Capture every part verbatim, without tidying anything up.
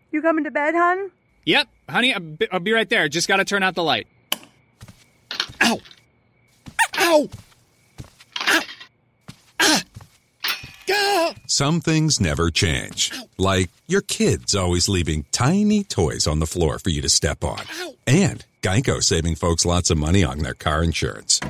You coming to bed, hon? Yep, honey, I'll be, I'll be right there. Just gotta turn out the light. Ow! Ow! Ow! Ah! Ah! Some things never change. Like your kids always leaving tiny toys on the floor for you to step on. And Geico saving folks lots of money on their car insurance.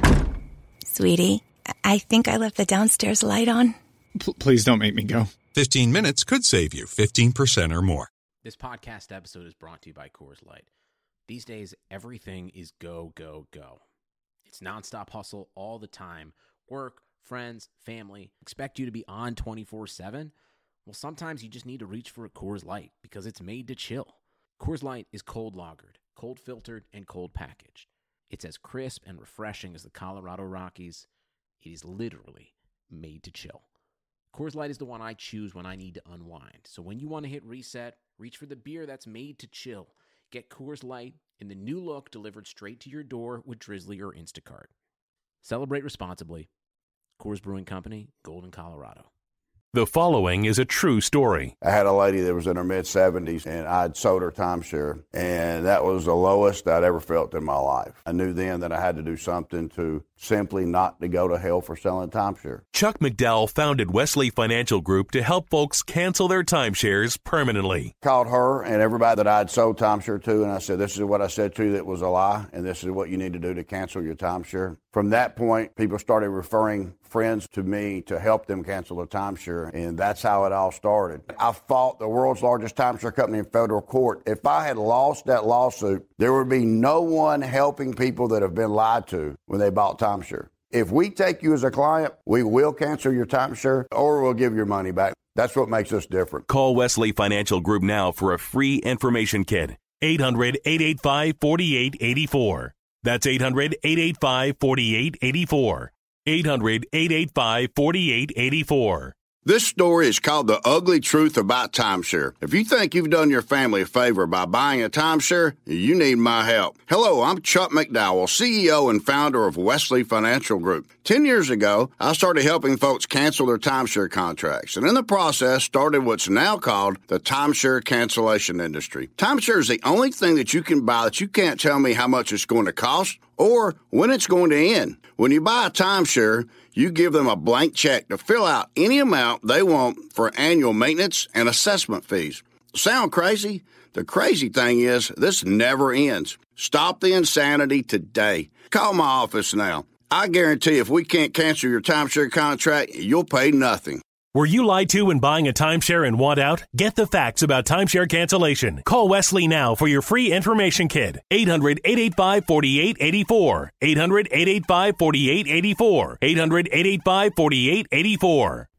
Sweetie, I think I left the downstairs light on. P- please don't make me go. fifteen minutes could save you fifteen percent or more. This podcast episode is brought to you by Coors Light. These days, everything is go, go, go. It's nonstop hustle all the time. Work, friends, family, expect you to be on twenty-four seven. Well, sometimes you just need to reach for a Coors Light because it's made to chill. Coors Light is cold lagered, cold filtered, and cold packaged. It's as crisp and refreshing as the Colorado Rockies. It is literally made to chill. Coors Light is the one I choose when I need to unwind. So when you want to hit reset, reach for the beer that's made to chill. Get Coors Light in the new look delivered straight to your door with Drizzly or Instacart. Celebrate responsibly. Coors Brewing Company, Golden, Colorado. The following is a true story. I had a lady that was in her mid-seventies, and I'd sold her timeshare, and that was the lowest I'd ever felt in my life. I knew then that I had to do something to simply not to go to hell for selling timeshare. Chuck McDowell founded Wesley Financial Group to help folks cancel their timeshares permanently. Called her and everybody that I'd sold timeshare to, and I said, this is what I said to you that was a lie, and this is what you need to do to cancel your timeshare. From that point, people started referring friends to me to help them cancel their timeshare, and that's how it all started. I fought the world's largest timeshare company in federal court. If I had lost that lawsuit, there would be no one helping people that have been lied to when they bought timeshare. If we take you as a client, we will cancel your timeshare or we'll give your money back. That's what makes us different. Call Wesley Financial Group now for a free information kit. eight hundred, eight eight five, four eight eight four. That's eight hundred, eight eight five, four eight eight four. eight hundred, eight eight five, four eight eight four. This story is called The Ugly Truth About Timeshare. If you think you've done your family a favor by buying a timeshare, you need my help. Hello, I'm Chuck McDowell, C E O and founder of Wesley Financial Group. Ten years ago, I started helping folks cancel their timeshare contracts, and in the process started what's now called the timeshare cancellation industry. Timeshare is the only thing that you can buy that you can't tell me how much it's going to cost or when it's going to end. When you buy a timeshare, you give them a blank check to fill out any amount they want for annual maintenance and assessment fees. Sound crazy? The crazy thing is, this never ends. Stop the insanity today. Call my office now. I guarantee if we can't cancel your timeshare contract, you'll pay nothing. Were you lied to when buying a timeshare and want out? Get the facts about timeshare cancellation. Call Wesley now for your free information kit. eight hundred, eight eight five, four eight eight four. eight hundred, eight eight five, four eight eight four. eight hundred, eight eight five, four eight eight four.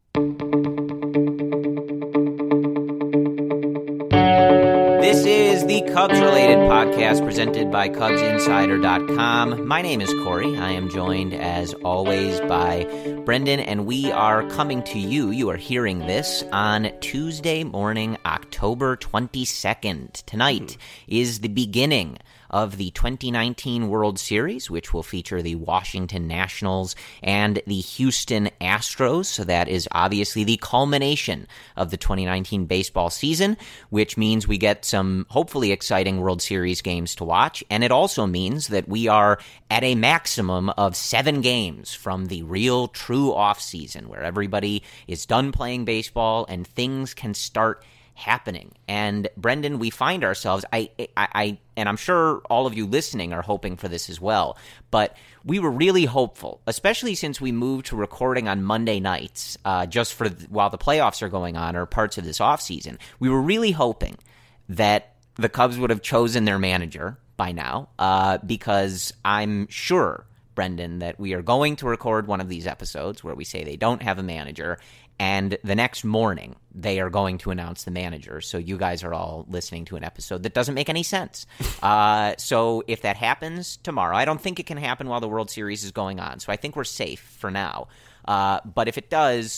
This is the Cubs-related podcast presented by Cubs Insider dot com. My name is Corey. I am joined, as always, by Brendan, and we are coming to you. You are hearing this on Tuesday morning, October twenty-second. Tonight is the beginning of the twenty nineteen World Series, which will feature the Washington Nationals and the Houston Astros. So that is obviously the culmination of the twenty nineteen baseball season, which means we get some hopefully exciting World Series games to watch. And it also means that we are at a maximum of seven games from the real true offseason, where everybody is done playing baseball and things can start happening. And Brendan, we find ourselves, I, I, I, and I'm sure all of you listening are hoping for this as well, but we were really hopeful, especially since we moved to recording on Monday nights, uh, just for while the playoffs are going on or parts of this offseason. We were really hoping that the Cubs would have chosen their manager by now, uh, because I'm sure, Brendan, that we are going to record one of these episodes where we say they don't have a manager, and the next morning, they are going to announce the manager. So you guys are all listening to an episode that doesn't make any sense. Uh, so if that happens tomorrow, I don't think it can happen while the World Series is going on. So I think we're safe for now. Uh, but if it does,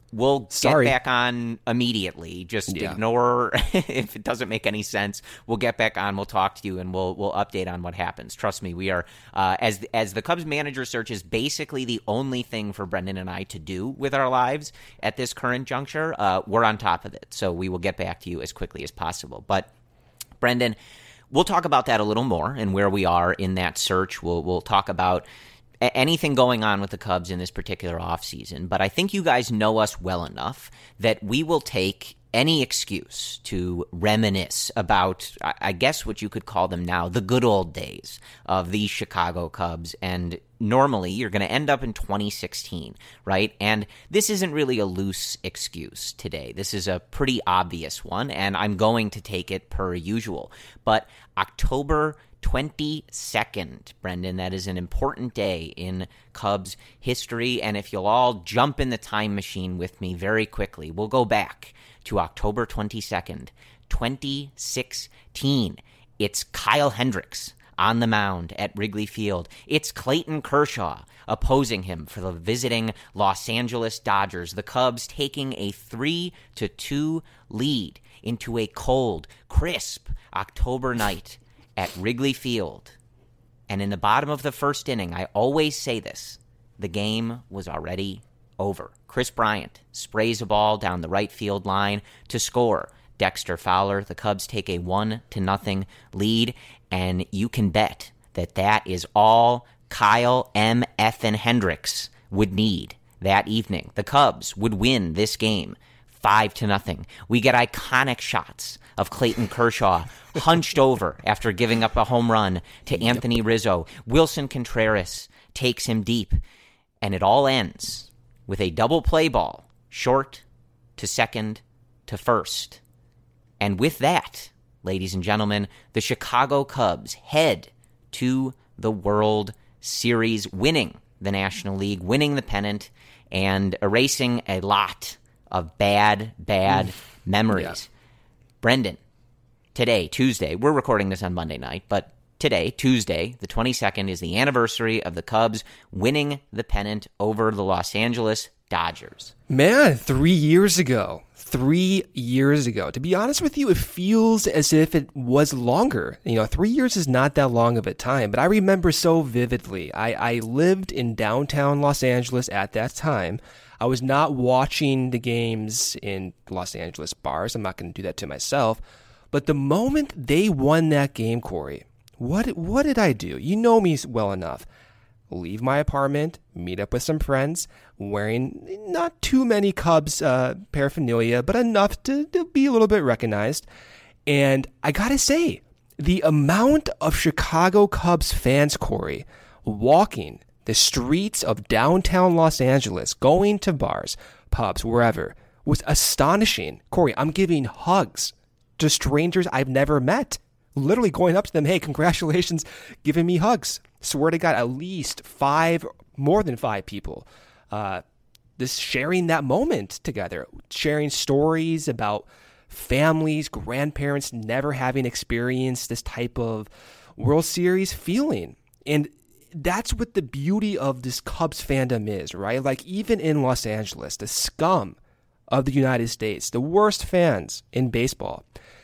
We'll Sorry. get back on immediately. Just Yeah. ignore if it doesn't make any sense. We'll get back on. We'll talk to you, and we'll we'll update on what happens. Trust me, we are uh, as as the Cubs manager search is basically the only thing for Brendan and I to do with our lives at this current juncture. Uh, we're on top of it, so we will get back to you as quickly as possible. But Brendan, we'll talk about that a little more and where we are in that search. We'll we'll talk about anything going on with the Cubs in this particular offseason. But I think you guys know us well enough that we will take any excuse to reminisce about, I guess what you could call them now, the good old days of these Chicago Cubs. And normally you're going to end up in twenty sixteen, right? And this isn't really a loose excuse today. This is a pretty obvious one, and I'm going to take it per usual. But October twenty-second, Brendan, that is an important day in Cubs history. And if you'll all jump in the time machine with me very quickly, we'll go back to October twenty-second, twenty sixteen. It's Kyle Hendricks on the mound at Wrigley Field. It's Clayton Kershaw opposing him for the visiting Los Angeles Dodgers. The Cubs taking a three to two lead into a cold, crisp October night at Wrigley Field. And in the bottom of the first inning, I always say this, the game was already over. Chris Bryant sprays a ball down the right field line to score. Dexter Fowler, the Cubs take a one to nothing lead, and you can bet that that is all Kyle M. Effin Hendricks would need that evening. The Cubs would win this game five to nothing. We get iconic shots of Clayton Kershaw hunched over after giving up a home run to Anthony Rizzo. Wilson Contreras takes him deep, and it all ends with a double play ball, short to second to first. And with that, ladies and gentlemen, the Chicago Cubs head to the World Series, winning the National League, winning the pennant, and erasing a lot of bad, bad memories. Yeah. Brendan, today, Tuesday, we're recording this on Monday night, but today, Tuesday, the twenty-second, is the anniversary of the Cubs winning the pennant over the Los Angeles Dodgers. Man, three years ago. Three years ago. To be honest with you, it feels as if it was longer. You know, three years is not that long of a time, but I remember so vividly. I, I lived in downtown Los Angeles at that time. I was not watching the games in Los Angeles bars. I'm not going to do that to myself. But the moment they won that game, Corey, what what did I do? You know me well enough. Leave my apartment, meet up with some friends, wearing not too many Cubs uh, paraphernalia, but enough to, to be a little bit recognized. And I gotta say, the amount of Chicago Cubs fans, Corey, walking the streets of downtown Los Angeles, going to bars, pubs, wherever, was astonishing. Corey, I'm giving hugs to strangers I've never met. Literally going up to them, hey, congratulations, giving me hugs. Swear to God, at least five, more than five people, uh, this sharing that moment together, sharing stories about families, grandparents never having experienced this type of World Series feeling. And that's what the beauty of this Cubs fandom is, right? Like even in Los Angeles, the scum of the United States, the worst fans in baseball,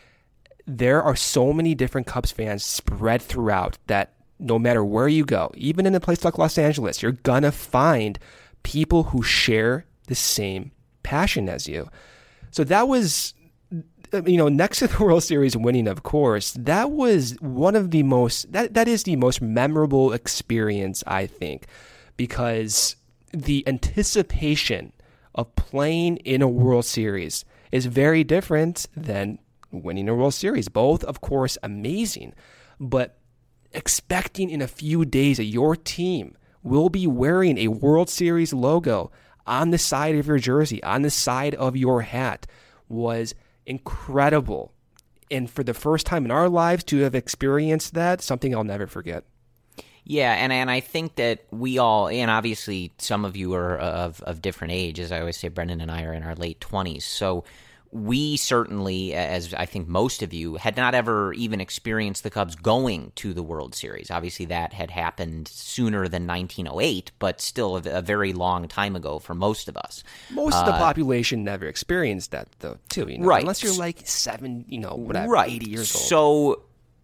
there are so many different Cubs fans spread throughout that no matter where you go, even in a place like Los Angeles, you're gonna find people who share the same passion as you. So that was, you know, next to the World Series winning, of course, that was one of the most, that, that is the most memorable experience, I think, because the anticipation of playing in a World Series is very different than winning a World Series. Both, of course, amazing, but expecting in a few days that your team will be wearing a World Series logo on the side of your jersey, on the side of your hat, was incredible. And for the first time in our lives to have experienced that, something I'll never forget. Yeah, and and I think that we all, and obviously some of you are of, of different age, as I always say, Brendan and I are in our late twenties, so we certainly, as I think most of you, had not ever even experienced the Cubs going to the World Series. Obviously, that had happened sooner than nineteen oh eight, but still a, a very long time ago for most of us. Most of the uh, population never experienced that, though, too. You know? Right. Unless you're like seven, you know, whatever, right. eighty years old. So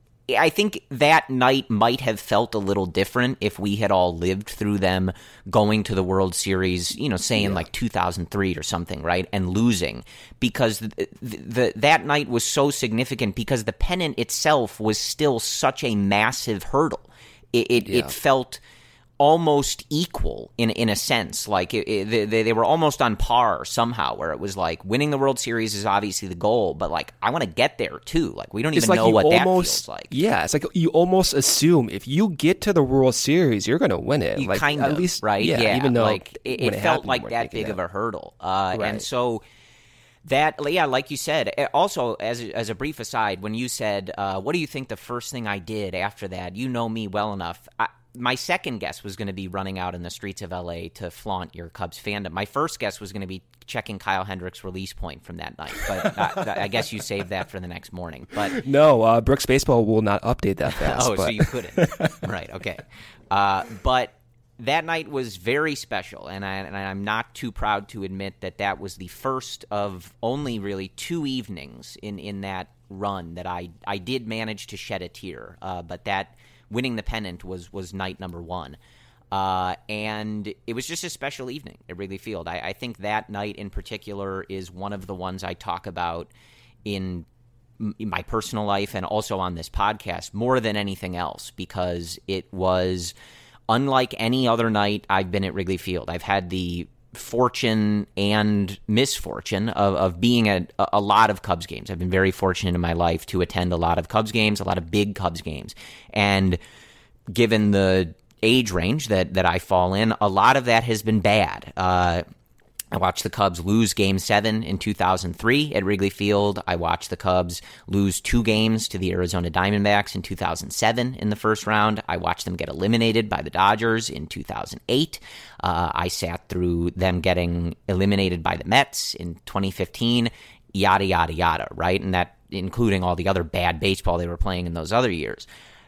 I think that night might have felt a little different if we had all lived through them going to the World Series, you know, say in yeah. like two thousand three or something, right, and losing, because the, the, the that night was so significant because the pennant itself was still such a massive hurdle. It it, yeah. it felt almost equal in in a sense, like it, it, they, they were almost on par somehow, where it was like winning the World Series is obviously the goal, but like I want to get there too. Like we don't it's even like know what almost, that feels like. Yeah, it's like you almost assume if you get to the World Series, you're going to win it. You like, kind at of, least, right? Yeah, yeah. even though like it, it, it felt happened, like that big that. of a hurdle, uh, right. and so. That, yeah, like you said, also, as a, as a brief aside, when you said, uh, what do you think the first thing I did after that? You know me well enough. I, my second guess was going to be running out in the streets of L A to flaunt your Cubs fandom. My first guess was going to be checking Kyle Hendricks' release point from that night, but I, I guess you saved that for the next morning. But no, uh, Brooks Baseball will not update that fast. oh, but. so you couldn't. Right, okay. Uh, but that night was very special, and, I, and I'm not too proud to admit that that was the first of only really two evenings in, in that run that I, I did manage to shed a tear. Uh, but that winning the pennant was, was night number one. Uh, and it was just a special evening at Wrigley Field. I, I think that night in particular is one of the ones I talk about in, in my personal life and also on this podcast more than anything else, because it was – unlike any other night I've been at Wrigley Field. I've had the fortune and misfortune of, of being at a, a lot of Cubs games. I've been very fortunate in my life to attend a lot of Cubs games, a lot of big Cubs games. And given the age range that, that I fall in, a lot of that has been bad. Uh, I watched the Cubs lose Game seven in two thousand three at Wrigley Field. I watched the Cubs lose two games to the Arizona Diamondbacks in two thousand seven in the first round. I watched them get eliminated by the Dodgers in two thousand eight. Uh, I sat through them getting eliminated by the Mets in twenty fifteen, yada, yada, yada, right? And that including all the other bad baseball they were playing in those other years.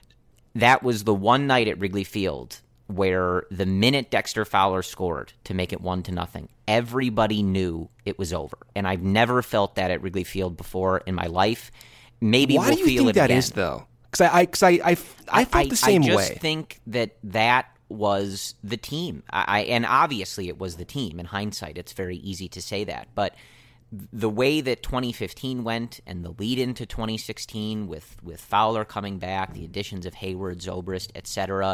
That was the one night at Wrigley Field where the minute Dexter Fowler scored to make it one to nothing, everybody knew it was over. And I've never felt that at Wrigley Field before in my life. Maybe Why we'll do you feel think it that again. is, though? Because I, I, cause I, I, I felt I, the same I just way. think that that was the team. I, I and obviously it was the team. In hindsight, it's very easy to say that. But the way that twenty fifteen went and the lead into twenty sixteen with, with Fowler coming back, the additions of Hayward, Zobrist, et cetera,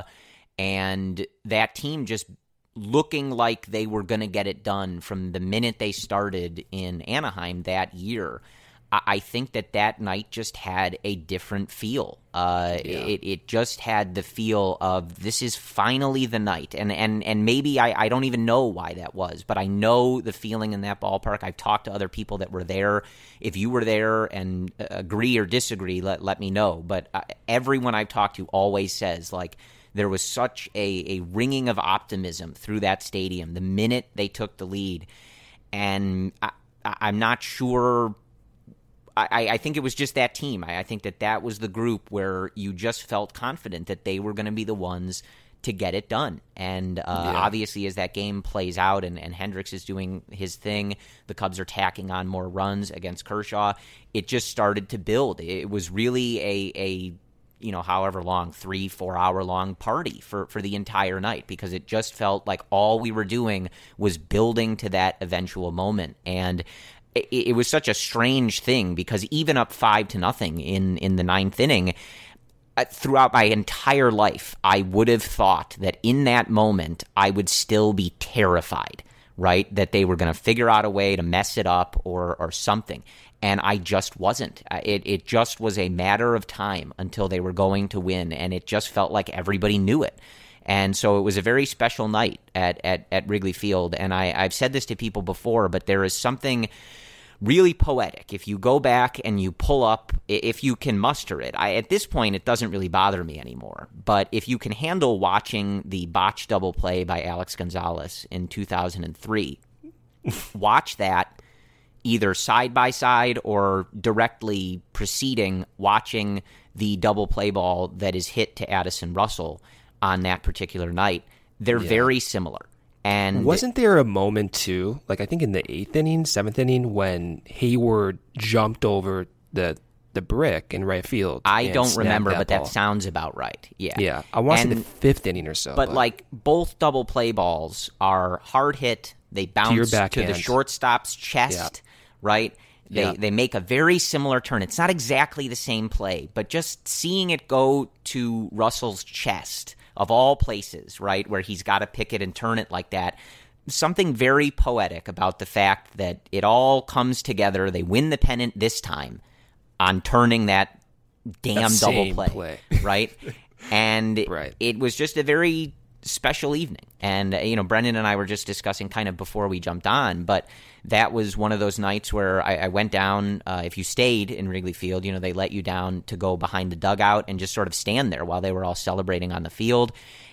and that team just looking like they were going to get it done from the minute they started in Anaheim that year, I think that that night just had a different feel. Uh, yeah. it, it just had the feel of this is finally the night. And and, and maybe I, I don't even know why that was, but I know the feeling in that ballpark. I've talked to other people that were there. If you were there and agree or disagree, let, let me know. But uh, everyone I've talked to always says, like, there was such a, a ringing of optimism through that stadium the minute they took the lead. And I, I'm not sure – I, I think it was just that team. I, I think that that was the group where you just felt confident that they were going to be the ones to get it done. And uh, yeah. obviously as that game plays out and, and Hendricks is doing his thing, the Cubs are tacking on more runs against Kershaw, it just started to build. It was really a a – you know, however long, three, four hour long party for, for the entire night, because it just felt like all we were doing was building to that eventual moment. And it, it was such a strange thing because even up five to nothing in, in the ninth inning, uh, throughout my entire life, I would have thought that in that moment, I would still be terrified, right? That they were going to figure out a way to mess it up or, or something. And I just wasn't. It it just was a matter of time until they were going to win, and it just felt like everybody knew it. And so it was a very special night at, at, at Wrigley Field. And I, I've said this to people before, but there is something really poetic. If you go back and you pull up, if you can muster it, I, at this point it doesn't really bother me anymore. But if you can handle watching the botched double play by Alex Gonzalez in two thousand three, watch that. either side by side or directly preceding watching the double play ball that is hit to Addison Russell on that particular night. They're yeah. very similar. And wasn't there a moment too, like I think in the eighth inning, seventh inning, when Hayward jumped over the the brick in right field? I don't remember, that but ball. That sounds about right. Yeah, yeah. I want to say the fifth inning or so. But, but like both double play balls are hard hit. They bounce to, to the shortstop's chest, yeah. right? They yeah. they make a very similar turn. It's not exactly the same play, but just seeing it go to Russell's chest, of all places, right, where he's got to pick it and turn it like that, something very poetic about the fact that it all comes together. They win the pennant this time on turning that damn that double play, play. right? And right. it was just a very special evening. And, you know, Brendan and I were just discussing kind of before we jumped on, but that was one of those nights where I, I went down. Uh, if you stayed in Wrigley Field, you know, they let you down to go behind the dugout and just sort of stand there while they were all celebrating on the field.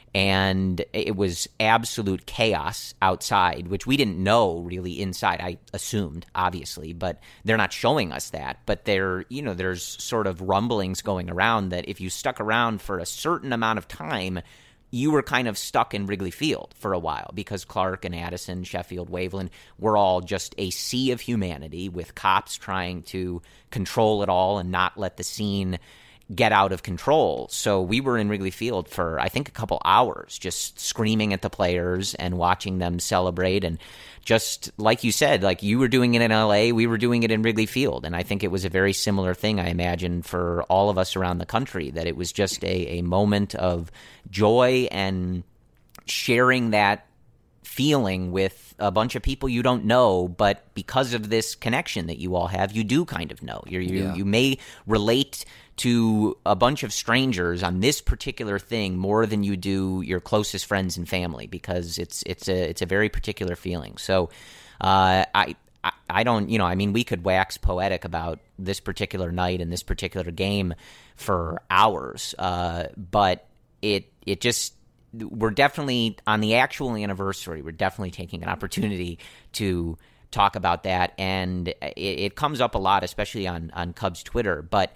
And it was absolute chaos outside, which we didn't know really inside. I assumed, obviously, but they're not showing us that. But there, you know, there's sort of rumblings going around that if you stuck around for a certain amount of time, you were kind of stuck in Wrigley Field for a while because Clark and Addison, Sheffield, Waveland were all just a sea of humanity with cops trying to control it all and not let the scene get out of control. So we were in Wrigley Field for, I think, a couple hours just screaming at the players and watching them celebrate. And just like you said, like you were doing it in L A, we were doing it in Wrigley Field. And I think it was a very similar thing, I imagine, for all of us around the country, that it was just a, a moment of joy and sharing that feeling with a bunch of people you don't know, but because of this connection that you all have, you do kind of know. You're, you yeah. you may relate to a bunch of strangers on this particular thing more than you do your closest friends and family, because it's it's a it's a very particular feeling. So uh, I, I I don't you know I mean we could wax poetic about this particular night and this particular game for hours, uh, but it it just. We're definitely, on the actual anniversary, we're definitely taking an opportunity to talk about that. And it, it comes up a lot, especially on, on Cubs Twitter. But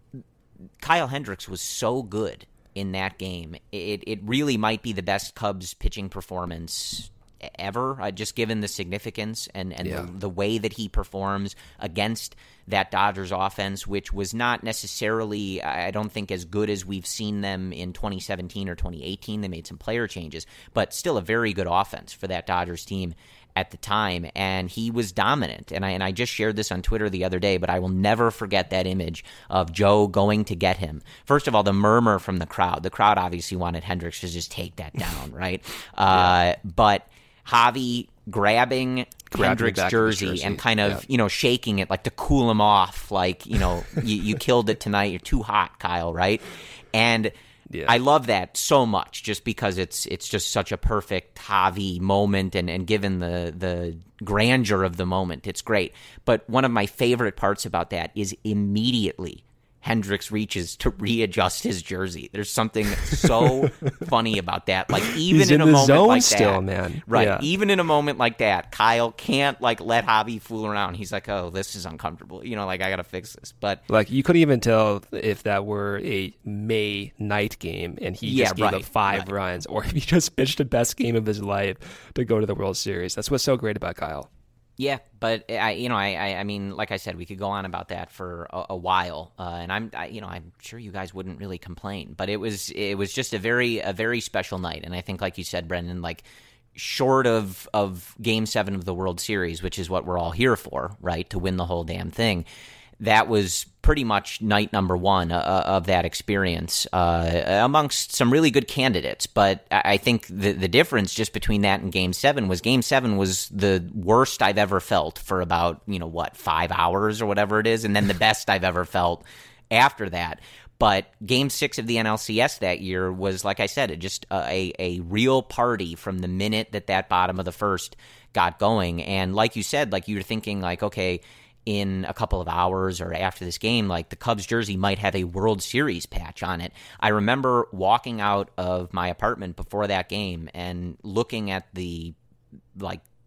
Kyle Hendricks was so good in that game. It, it really might be the best Cubs pitching performance ever, uh, just given the significance and, and yeah. the, the way that he performs against that Dodgers offense, which was not necessarily, I don't think, as good as we've seen them in twenty seventeen or twenty eighteen. They made some player changes, but still a very good offense for that Dodgers team at the time, and he was dominant. And I and I just shared this on Twitter the other day, but I will never forget that image of Joe going to get him. First of all, the murmur from the crowd. The crowd obviously wanted Hendricks to just take that down, right? Uh, yeah. But Javi grabbing Hendricks' jersey, jersey and kind of, yeah. you know, shaking it like to cool him off, like, you know, you, you killed it tonight. You're too hot, Kyle, right? And yeah. I love that so much just because it's it's just such a perfect Javi moment, and, and given the, the grandeur of the moment, it's great. But one of my favorite parts about that is immediately Hendricks reaches to readjust his jersey. There's something so funny about that. Like even He's in, in a the moment zone like still, that, man. right? Yeah. Even in a moment like that, Kyle can't like let Javi fool around. He's like, "Oh, this is uncomfortable." You know, like I gotta fix this. But like you couldn't even tell if that were a May night game and he yeah, just gave right, up five right. runs, or if he just pitched the best game of his life to go to the World Series. That's what's so great about Kyle. Yeah, but I, you know, I, I, I mean, like I said, we could go on about that for a, a while, uh, and I'm, I, you know, I'm sure you guys wouldn't really complain. But it was, it was just a very, a very special night, and I think, like you said, Brendan, like short of of Game Seven of the World Series, which is what we're all here for, right, to win the whole damn thing. That was pretty much night number one uh, of that experience uh, amongst some really good candidates. But I think the the difference just between that and Game Seven was Game Seven was the worst I've ever felt for about, you know, what, five hours or whatever it is, and then the best I've ever felt after that. But Game Six of the N L C S that year was, like I said, it just a a real party from the minute that that bottom of the first got going. And like you said, like you were thinking, like, okay, in a couple of hours or after this game, like the Cubs jersey might have a World Series patch on it. I remember walking out of my apartment before that game and looking at the like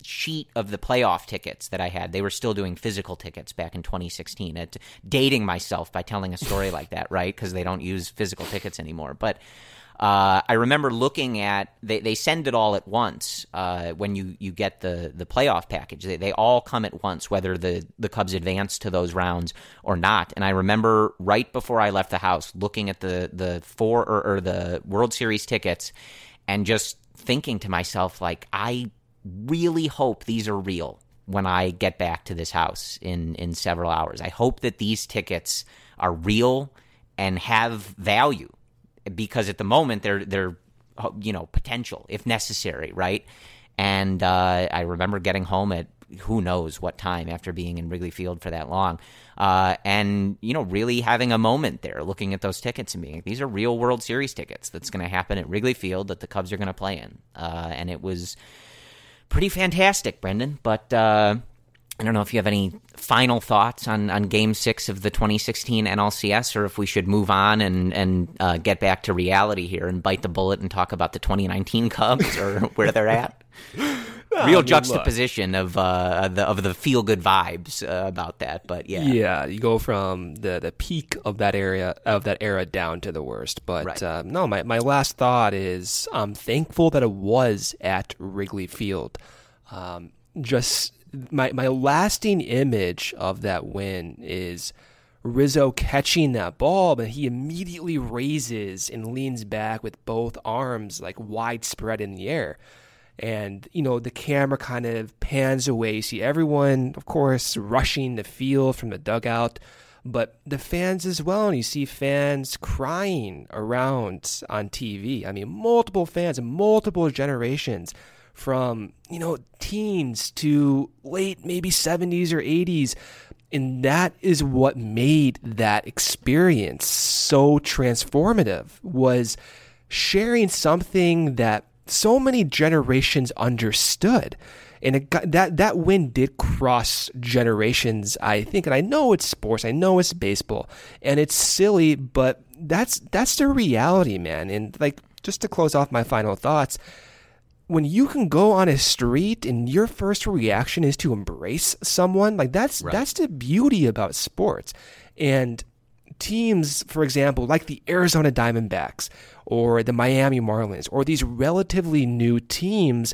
sheet of the playoff tickets that I had. They were still doing physical tickets back in twenty sixteen. It, dating myself by telling a story like that, right? Because they don't use physical tickets anymore. But uh, I remember looking at they, they send it all at once uh, when you, you get the, the playoff package. They they all come at once, whether the, the Cubs advance to those rounds or not. And I remember right before I left the house looking at the the four or, or the World Series tickets and just thinking to myself, like, I really hope these are real when I get back to this house in, in several hours. I hope that these tickets are real and have value, because at the moment they're they're you know potential if necessary, right? And uh, I remember getting home at who knows what time after being in Wrigley Field for that long, uh, and you know really having a moment there, looking at those tickets and being like, these are real World Series tickets that's going to happen at Wrigley Field that the Cubs are going to play in, uh, and it was pretty fantastic, Brendan. But uh, I don't know if you have any final thoughts on, on Game Six of the twenty sixteen N L C S, or if we should move on and and uh, get back to reality here and bite the bullet and talk about the twenty nineteen Cubs or where they're at. Oh, Real juxtaposition of uh, the of the feel good vibes uh, about that, but yeah, yeah, you go from the, the peak of that area of that era down to the worst. But right. uh, no, my, my last thought is I'm thankful that it was at Wrigley Field. Um, just my my lasting image of that win is Rizzo catching that ball, but he immediately raises and leans back with both arms like widespread in the air. And, you know, the camera kind of pans away. You see everyone, of course, rushing the field from the dugout, but the fans as well. And you see fans crying around on T V. I mean, multiple fans, multiple generations from, you know, teens to late maybe seventies or eighties. And that is what made that experience so transformative, was sharing something that so many generations understood. And it got, that that win did cross generations, I think. And I know it's sports, I know it's baseball, and it's silly, but that's that's the reality, man. And like, just to close off my final thoughts, when you can go on a street and your first reaction is to embrace someone, like that's right. that's the beauty about sports. And teams, for example, like the Arizona Diamondbacks or the Miami Marlins or these relatively new teams,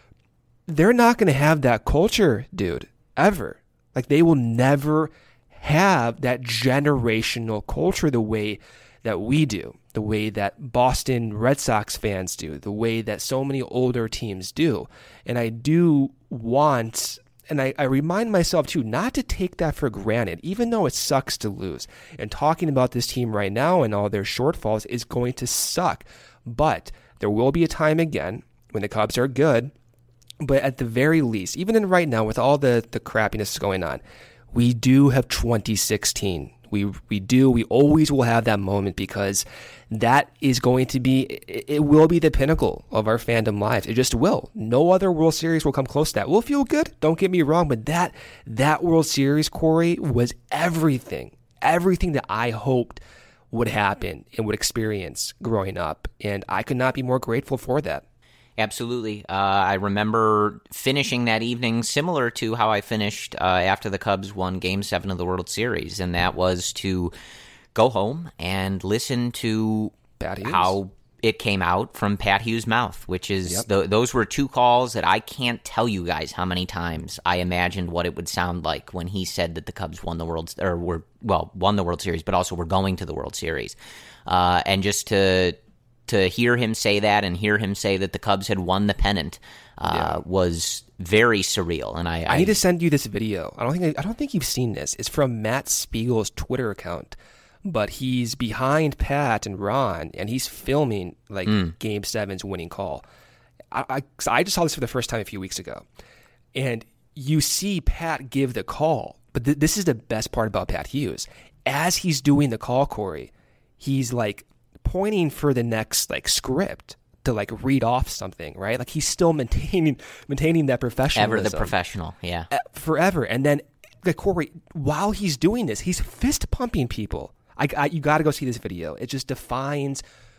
they're not going to have that culture, dude, ever. Like, they will never have that generational culture the way that we do, the way that Boston Red Sox fans do, the way that so many older teams do. And I do want, and I, I remind myself too, not to take that for granted, even though it sucks to lose. And talking about this team right now and all their shortfalls is going to suck. But there will be a time again when the Cubs are good. But at the very least, even in right now with all the, the crappiness going on, we do have twenty sixteen. We we do. We always will have that moment, because that is going to be, it will be the pinnacle of our fandom lives. It just will. No other World Series will come close to that. We'll feel good, don't get me wrong, but that that World Series, Corey, was everything. Everything that I hoped would happen and would experience growing up. And I could not be more grateful for that. Absolutely. Uh, I remember finishing that evening similar to how I finished uh, after the Cubs won Game seven of the World Series, and that was to go home and listen to how it came out from Pat Hughes' mouth, which is yep. th- those were two calls that I can't tell you guys how many times I imagined what it would sound like when he said that the Cubs won the World or were well won the World Series, but also were going to the World Series, uh, and just to. To hear him say that and hear him say that the Cubs had won the pennant uh, yeah. was very surreal. And I, I, I need to send you this video. I don't think I, I don't think you've seen this. It's from Matt Spiegel's Twitter account, but he's behind Pat and Ron, and he's filming like mm. Game Seven's winning call. I, I I just saw this for the first time a few weeks ago, and you see Pat give the call. But th- this is the best part about Pat Hughes. As he's doing the call, Corey, he's like pointing for the next like script to like read off something, right? Like he's still maintaining maintaining that professionalism. Ever the professional, yeah. Forever. And then like Corey, while he's doing this, he's fist pumping people. I, I you got to go see this video. It just defines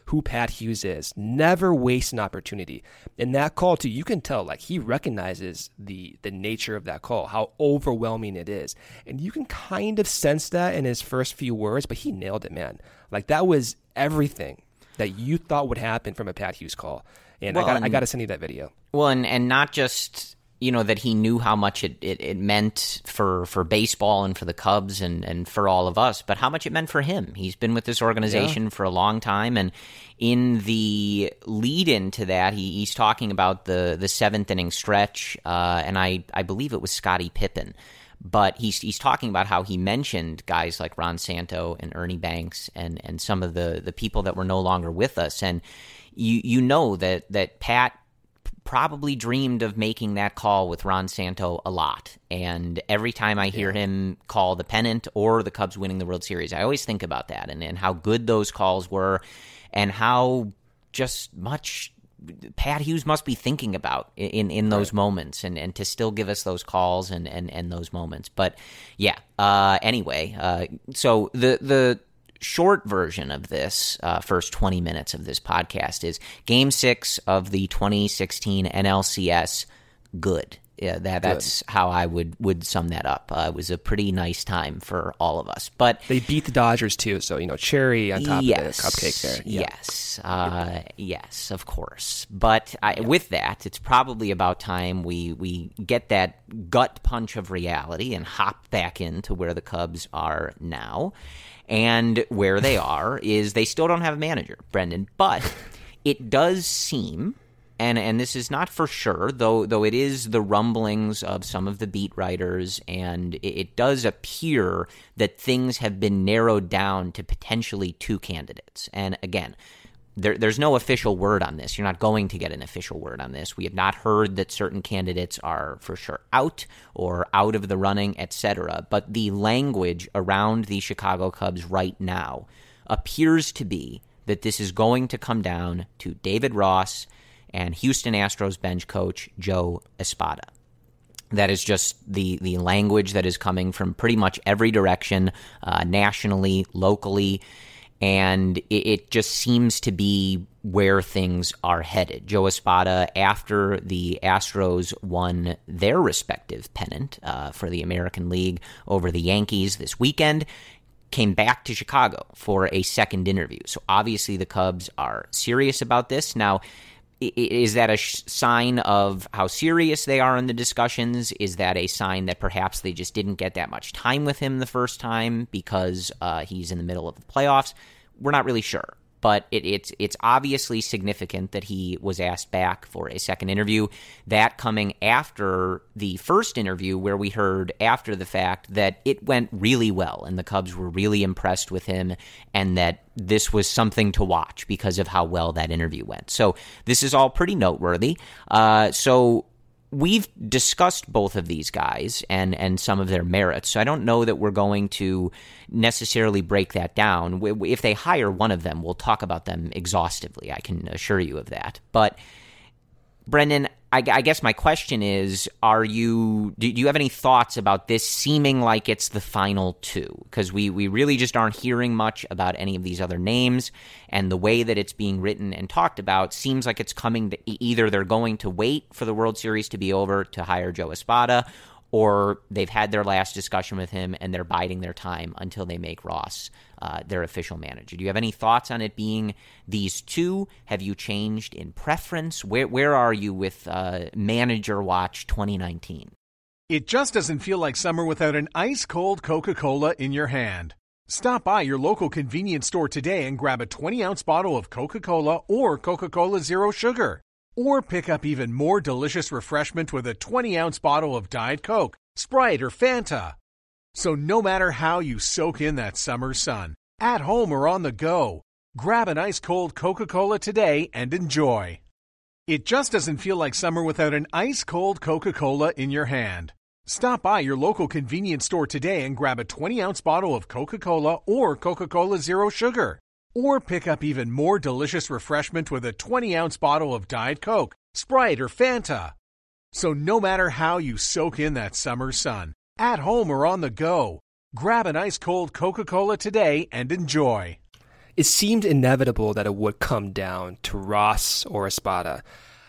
who Pat Hughes is. Never waste an opportunity. In that call, too, you can tell, like, he recognizes the the nature of that call, how overwhelming it is. And you can kind of sense that in his first few words, but he nailed it, man. Like, that was everything that you thought would happen from a Pat Hughes call. And well, I got I got to send you that video. Well, and, and not just, you know, that he knew how much it, it, it meant for, for baseball and for the Cubs and, and for all of us, but how much it meant for him. He's been with this organization yeah. for a long time, and in the lead into that, he, he's talking about the, the seventh inning stretch, uh, and I, I believe it was Scottie Pippen. But he's he's talking about how he mentioned guys like Ron Santo and Ernie Banks and, and some of the, the people that were no longer with us. And you you know that, that Pat probably dreamed of making that call with Ron Santo a lot. And every time I hear yeah. him call the pennant or the Cubs winning the World Series, I always think about that and, and how good those calls were and how just much Pat Hughes must be thinking about in, in those right. moments and, and to still give us those calls and, and, and those moments. But yeah, uh, anyway, uh, so the the short version of this uh, first twenty minutes of this podcast is Game six of the twenty sixteen N L C S, good. Yeah, that, that's Good. how I would, would sum that up. Uh, it was a pretty nice time for all of us. But they beat the Dodgers too, so you know, cherry on top yes, of the cupcake there. Yeah. Yes, uh, yes, of course. But I, yeah. with that, it's probably about time we we get that gut punch of reality and hop back into where the Cubs are now. And where they are is they still don't have a manager, Brendan. But it does seem. And and this is not for sure, though though it is the rumblings of some of the beat writers, and it, it does appear that things have been narrowed down to potentially two candidates. And again, there, there's no official word on this. You're not going to get an official word on this. We have not heard that certain candidates are for sure out or out of the running, et cetera. But the language around the Chicago Cubs right now appears to be that this is going to come down to David Ross and Houston Astros bench coach Joe Espada. That is just the, the language that is coming from pretty much every direction, uh, nationally, locally, and it, it just seems to be where things are headed. Joe Espada, after the Astros won their respective pennant uh, for the American League over the Yankees this weekend, came back to Chicago for a second interview. So obviously the Cubs are serious about this. Now, is that a sh- sign of how serious they are in the discussions? Is that a sign that perhaps they just didn't get that much time with him the first time because uh, he's in the middle of the playoffs? We're not really sure. But it, it's it's obviously significant that he was asked back for a second interview. That coming after the first interview where we heard after the fact that it went really well and the Cubs were really impressed with him and that this was something to watch because of how well that interview went. So this is all pretty noteworthy. Uh, so we've discussed both of these guys and, and some of their merits, so I don't know that we're going to necessarily break that down. If they hire one of them, we'll talk about them exhaustively. I can assure you of that. But, Brendan, I, I guess my question is, are you do you have any thoughts about this seeming like it's the final two? Because we, we really just aren't hearing much about any of these other names, and the way that it's being written and talked about seems like it's coming to either they're going to wait for the World Series to be over to hire Joe Espada, or they've had their last discussion with him and they're biding their time until they make Ross uh, their official manager. Do you have any thoughts on it being these two? Have you changed in preference? Where where are you with uh, Manager Watch twenty nineteen? It just doesn't feel like summer without an ice-cold Coca-Cola in your hand. Stop by your local convenience store today and grab a twenty-ounce bottle of Coca-Cola or Coca-Cola Zero Sugar. Or pick up even more delicious refreshment with a twenty-ounce bottle of Diet Coke, Sprite, or Fanta. So no matter how you soak in that summer sun, at home or on the go, grab an ice-cold Coca-Cola today and enjoy. It just doesn't feel like summer without an ice-cold Coca-Cola in your hand. Stop by your local convenience store today and grab a twenty-ounce bottle of Coca-Cola or Coca-Cola Zero Sugar. Or pick up even more delicious refreshment with a twenty-ounce bottle of Diet Coke, Sprite, or Fanta. So no matter how you soak in that summer sun, at home or on the go, grab an ice-cold Coca-Cola today and enjoy. it seemed inevitable that it would come down to Ross or Espada.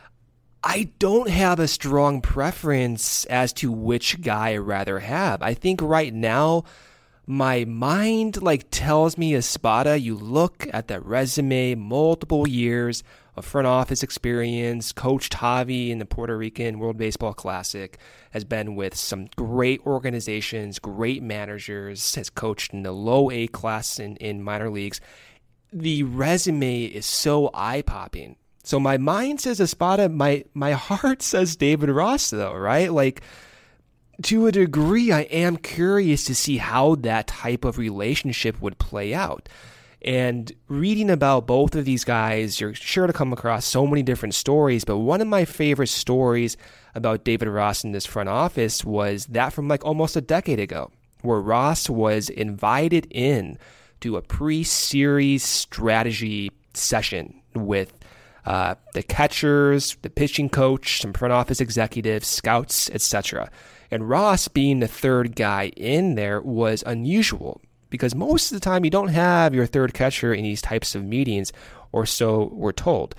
I don't have a strong preference as to which guy I'd rather have. I think right now, my mind like tells me Espada. You look at that resume, multiple years of front office experience, coached Javi in the Puerto Rican World Baseball Classic, has been with some great organizations, great managers, has coached in the low A class in, in minor leagues. The resume is so eye-popping. So my mind says Espada, my my heart says David Ross, though, right? Like, to a degree, I am curious to see how that type of relationship would play out. And reading about both of these guys, you're sure to come across so many different stories, but one of my favorite stories about David Ross in this front office was that from like almost a decade ago, where Ross was invited in to a pre-series strategy session with uh, the catchers, the pitching coach, some front office executives, scouts, et cetera. And Ross being the third guy in there was unusual because most of the time you don't have your third catcher in these types of meetings, or so we're told.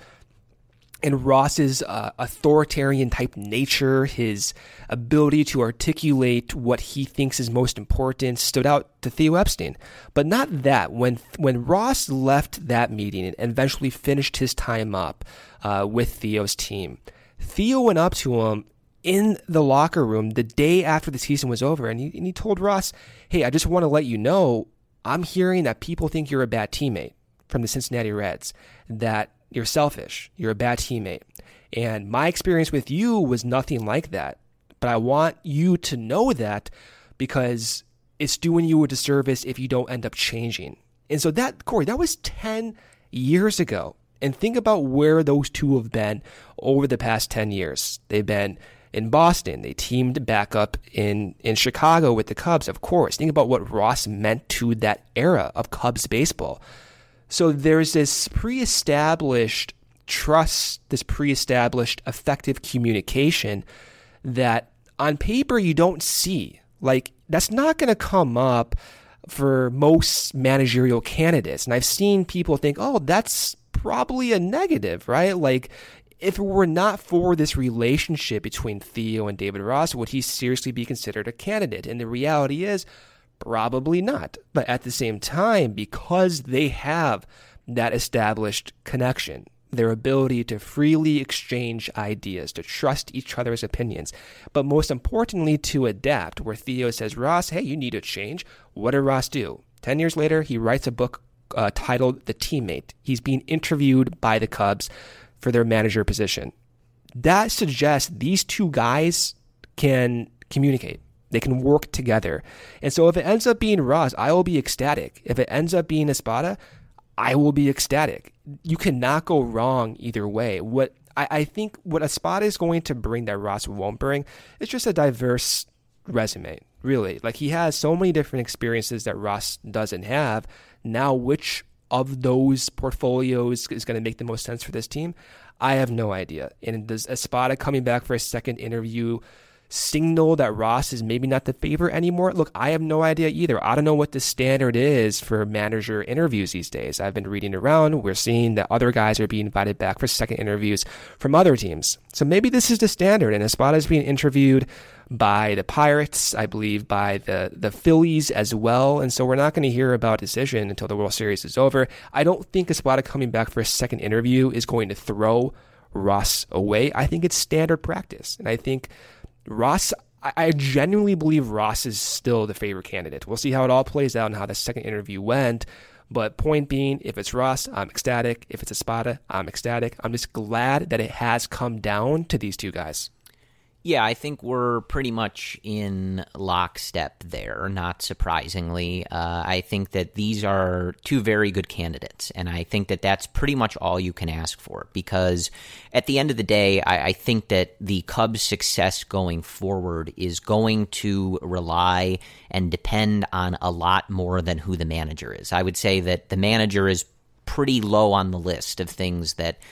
And Ross's uh, authoritarian type nature, his ability to articulate what he thinks is most important, stood out to Theo Epstein. But not that. When when Ross left that meeting and eventually finished his time up uh, with Theo's team, Theo went up to him in the locker room the day after the season was over, and he, and he told Ross, hey, I just want to let you know, I'm hearing that people think you're a bad teammate from the Cincinnati Reds, that you're selfish, you're a bad teammate. And my experience with you was nothing like that. But I want you to know that because it's doing you a disservice if you don't end up changing. And so that, Corey, that was ten years ago. And think about where those two have been over the past ten years. They've been in Boston. They teamed back up in, in Chicago with the Cubs, of course. Think about what Ross meant to that era of Cubs baseball. So there's this pre-established trust, this pre-established effective communication that on paper you don't see. Like, that's not going to come up for most managerial candidates. And I've seen people think, oh, that's probably a negative, right? Like, if it were not for this relationship between Theo and David Ross, would he seriously be considered a candidate? And the reality is, probably not. But at the same time, because they have that established connection, their ability to freely exchange ideas, to trust each other's opinions, but most importantly, to adapt, where Theo says, Ross, hey, you need to change. What did Ross do? Ten years later, he writes a book uh, titled The Teammate. He's being interviewed by the Cubs for their manager position. That suggests these two guys can communicate. They can work together. And so if it ends up being Ross, I will be ecstatic. If it ends up being Espada, I will be ecstatic. You cannot go wrong either way. What I, I think what Espada is going to bring that Ross won't bring is just a diverse resume, really. Like, he has so many different experiences that Ross doesn't have. Now, which of those portfolios is going to make the most sense for this team? I have no idea. And does Espada coming back for a second interview signal that Ross is maybe not the favorite anymore? Look, I have no idea either. I don't know what the standard is for manager interviews these days. I've been reading around. We're seeing that other guys are being invited back for second interviews from other teams. So maybe this is the standard, and Espada is being interviewed by the Pirates, I believe by the, the Phillies as well. And so we're not going to hear about a decision until the World Series is over. I don't think Espada coming back for a second interview is going to throw Ross away. I think it's standard practice. And I think Ross, I genuinely believe Ross is still the favorite candidate. We'll see how it all plays out and how the second interview went. But point being, if it's Ross, I'm ecstatic. If it's Espada, I'm ecstatic. I'm just glad that it has come down to these two guys. Yeah, I think we're pretty much in lockstep there, not surprisingly. Uh, I think that these are two very good candidates, and I think that that's pretty much all you can ask for, because at the end of the day, I, I think that the Cubs' success going forward is going to rely and depend on a lot more than who the manager is. I would say that the manager is pretty low on the list of things that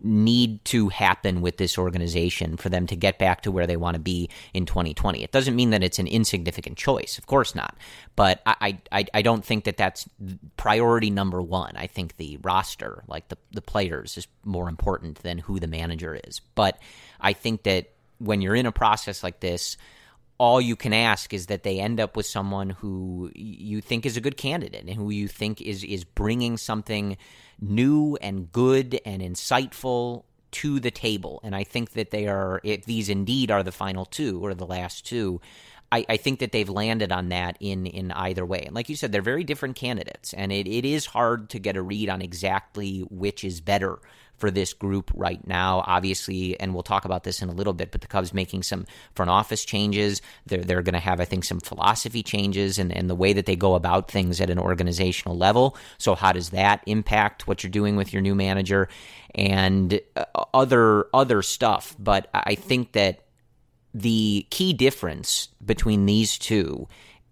need to happen with this organization for them to get back to where they want to be in twenty twenty. It doesn't mean that it's an insignificant choice. Of course not. But I I, I don't think that that's priority number one. I think the roster, like the, the players, is more important than who the manager is. But I think that when you're in a process like this, all you can ask is that they end up with someone who you think is a good candidate and who you think is is bringing something new and good and insightful to the table. And I think that they are, if these indeed are the final two or the last two, I, I think that they've landed on that in, in either way. And like you said, they're very different candidates, and it, it is hard to get a read on exactly which is better for this group right now, obviously, and we'll talk about this in a little bit, but the Cubs making some front office changes. They're, they're going to have, I think, some philosophy changes and, and the way that they go about things at an organizational level. So how does that impact what you're doing with your new manager and uh, other other stuff? But I think that the key difference between these two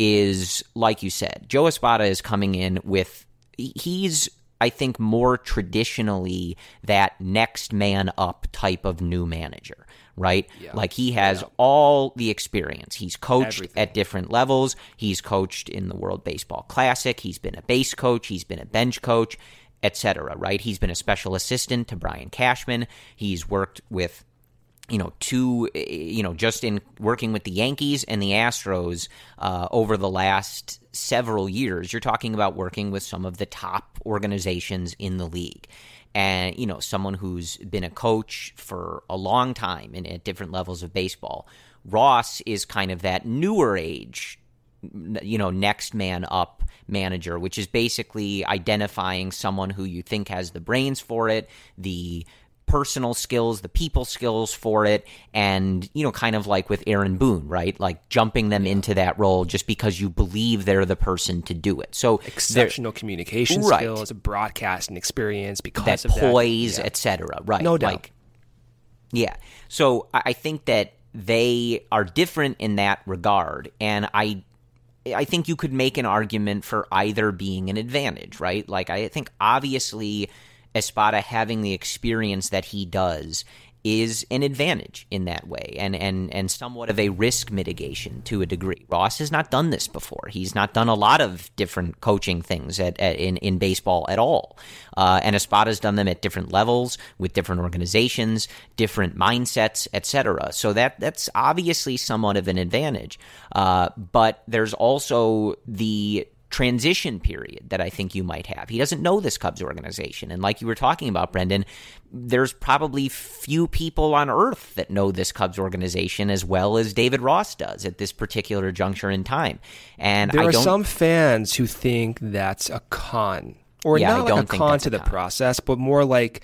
is, like you said, Joe Espada is coming in with, he's I think more traditionally that next man up type of new manager, right? Yeah. Like he has yeah. all the experience. He's coached Everything. at different levels. He's coached in the World Baseball Classic. He's been a base coach. He's been a bench coach, et cetera, right? He's been a special assistant to Brian Cashman. He's worked with you know, two, you know, just in working with the Yankees and the Astros uh, over the last several years, you're talking about working with some of the top organizations in the league. And, you know, someone who's been a coach for a long time and at different levels of baseball. Ross is kind of that newer age, you know, next man up manager, which is basically identifying someone who you think has the brains for it, the personal skills, the people skills for it, and, you know, kind of like with Aaron Boone, right? Like jumping them into that role just because you believe they're the person to do it. So exceptional communication right. skills, broadcasting experience because that of poise, that. Yeah. et cetera. Right. No doubt. Like, yeah. So I think that they are different in that regard, and I I think you could make an argument for either being an advantage, right? Like I think obviously Espada having the experience that he does is an advantage in that way, and, and, and somewhat of a risk mitigation to a degree. Ross has not done this before. He's not done a lot of different coaching things at, at in, in baseball at all. Uh, and Espada's done them at different levels, with different organizations, different mindsets, et cetera. So that that's obviously somewhat of an advantage. Uh, but there's also the transition period that I think you might have. He doesn't know this Cubs organization. And like you were talking about, Brendan, there's probably few people on earth that know this Cubs organization as well as David Ross does at this particular juncture in time. And there I are don't, some fans who think that's a con. Or yeah, not I like don't a think con that's to a the con. process, but more like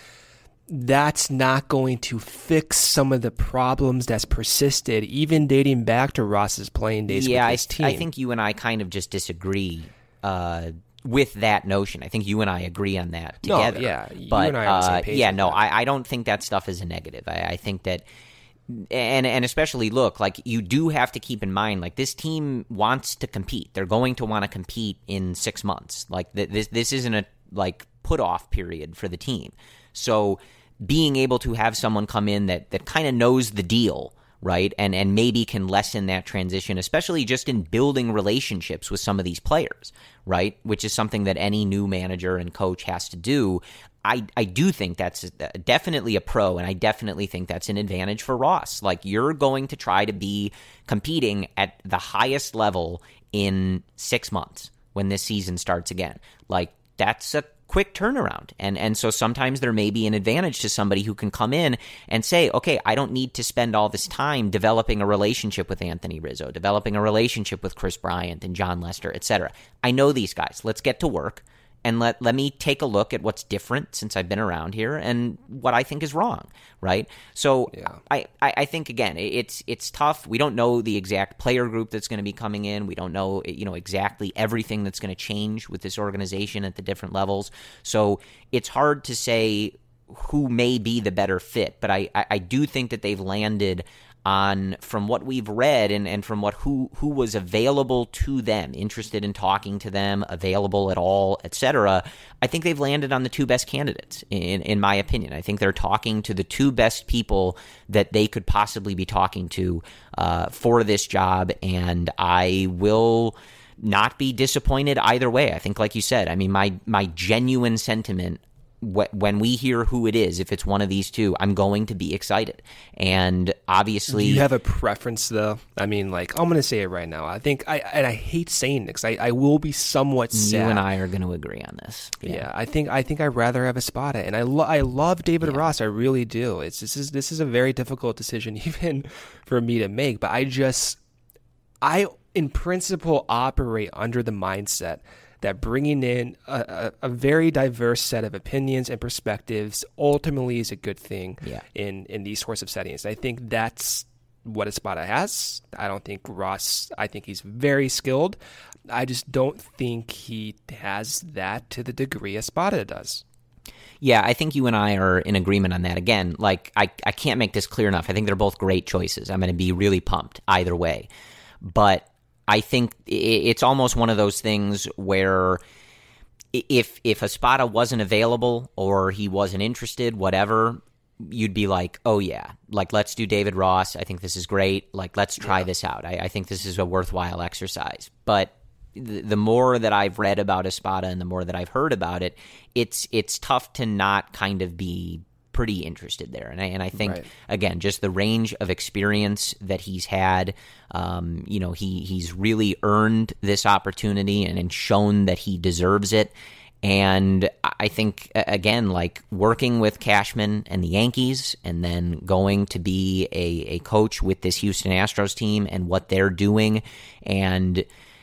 that's not going to fix some of the problems that's persisted, even dating back to Ross's playing days yeah, with his I, team. I think you and I kind of just disagree uh, with that notion. I think you and I agree on that together. No, yeah, you but, and I are on the same uh, page Yeah, with no, that. I, I don't think that stuff is a negative. I, I think that, and and especially, look, like you do have to keep in mind, like this team wants to compete. They're going to want to compete in six months. Like th- this, this isn't a like put off period for the team. So being able to have someone come in that that kind of knows the deal, right, and and maybe can lessen that transition, especially just in building relationships with some of these players, right, which is something that any new manager and coach has to do. I, I do think that's definitely a pro, and I definitely think that's an advantage for Ross. Like, you're going to try to be competing at the highest level in six months when this season starts again. Like, that's a quick turnaround. And and so sometimes there may be an advantage to somebody who can come in and say, okay, I don't need to spend all this time developing a relationship with Anthony Rizzo, developing a relationship with Chris Bryant and John Lester, et cetera. I know these guys. Let's get to work. And let, let me take a look at what's different since I've been around here and what I think is wrong, right? So yeah. I, I, I think, again, it's it's tough. We don't know the exact player group that's going to be coming in. We don't know, you know, exactly everything that's going to change with this organization at the different levels. So it's hard to say who may be the better fit. But I, I, I do think that they've landed on from what we've read and, and from what who who was available to them, interested in talking to them, available at all, et cetera. I think they've landed on the two best candidates, in in my opinion. I think they're talking to the two best people that they could possibly be talking to uh, for this job, and I will not be disappointed either way. I think, like you said, I mean, my my genuine sentiment when we hear who it is, if it's one of these two, I'm going to be excited. And obviously, do you have a preference though? I mean, like, I'm going to say it right now. I think I and I hate saying it because I, I will be somewhat sad. You and I are going to agree on this. Yeah, yeah I think I think I'd rather have Espada, and I lo- I love David yeah. Ross. I really do. It's this is this is a very difficult decision even for me to make. But I just I in principle operate under the mindset that bringing in a, a, a very diverse set of opinions and perspectives ultimately is a good thing yeah. in, in these sorts of settings. I think that's what Espada has. I don't think Ross, I think he's very skilled. I just don't think he has that to the degree Espada does. Yeah, I think you and I are in agreement on that. Again, like, I, I can't make this clear enough. I think they're both great choices. I'm going to be really pumped either way. But I think it's almost one of those things where if if Espada wasn't available or he wasn't interested, whatever, you'd be like, oh yeah, like, let's do David Ross. I think this is great. Like, let's try yeah. this out. I, I think this is a worthwhile exercise. But the, the more that I've read about Espada and the more that I've heard about it, it's it's tough to not kind of be pretty interested there. And I, and I think, right. again, just the range of experience that he's had, um, you know, he he's really earned this opportunity and, and shown that he deserves it. And I think, again, like, working with Cashman and the Yankees and then going to be a, a coach with this Houston Astros team and what they're doing, and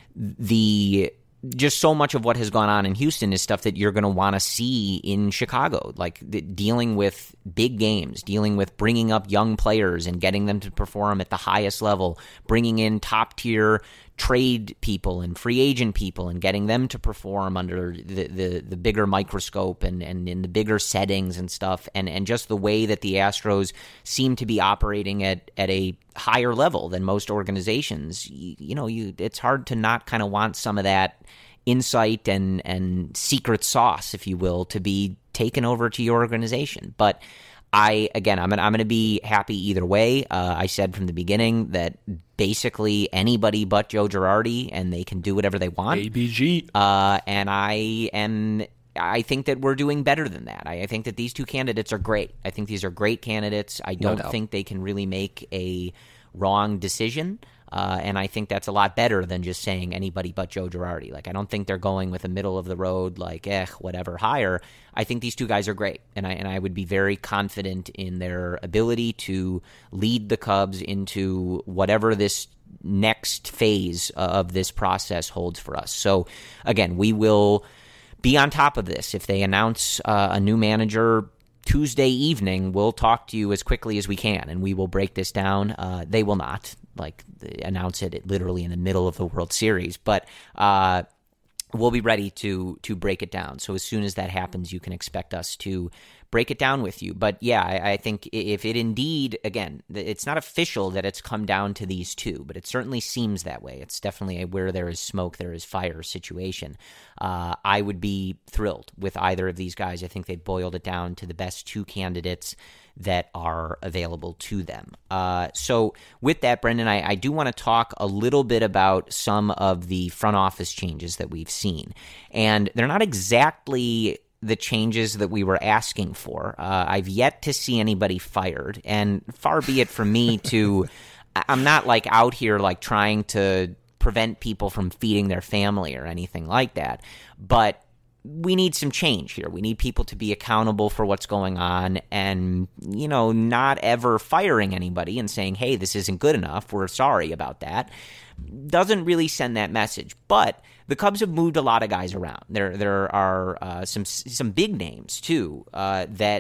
the just so much of what has gone on in Houston is stuff that you're going to want to see in Chicago, like the, dealing with big games, dealing with bringing up young players and getting them to perform at the highest level, bringing in top-tier trade people and free agent people and getting them to perform under the, the, the bigger microscope and, and in the bigger settings and stuff, and, and just the way that the Astros seem to be operating at, at a higher level than most organizations. You, you know, you it's hard to not kind of want some of that insight and, and secret sauce, if you will, to be taken over to your organization. But I, again, I'm gonna, I'm gonna be happy either way. Uh, I said from the beginning that basically anybody but Joe Girardi, and they can do whatever they want. A B G. Uh, and I am, I think that we're doing better than that. I, I think that these two candidates are great. I think these are great candidates. I don't no think they can really make a wrong decision. Uh, and I think that's a lot better than just saying anybody but Joe Girardi. Like, I don't think they're going with a middle of the road, like, eh, whatever, hire. I think these two guys are great, and I and I would be very confident in their ability to lead the Cubs into whatever this next phase of this process holds for us. So, again, we will be on top of this. If they announce uh, a new manager Tuesday evening, we'll talk to you as quickly as we can, and we will break this down. Uh, they will not, like, announce it literally in the middle of the World Series, but uh, we'll be ready to to break it down. So as soon as that happens, you can expect us to break it down with you. But yeah, I, I think if it indeed, again, it's not official that it's come down to these two, but it certainly seems that way. It's definitely a where there is smoke, there is fire situation. Uh, I would be thrilled with either of these guys. I think they boiled it down to the best two candidates that are available to them. Uh, so with that, Brendan, I, I do want to talk a little bit about some of the front office changes that we've seen. And they're not exactly the changes that we were asking for. Uh, I've yet to see anybody fired, and far be it from me to, I'm not like out here like trying to prevent people from feeding their family or anything like that, but we need some change here. We need people to be accountable for what's going on and, you know, not ever firing anybody and saying, hey, this isn't good enough, we're sorry about that. Doesn't really send that message. But the Cubs have moved a lot of guys around. There there are uh, some some big names, too, uh, that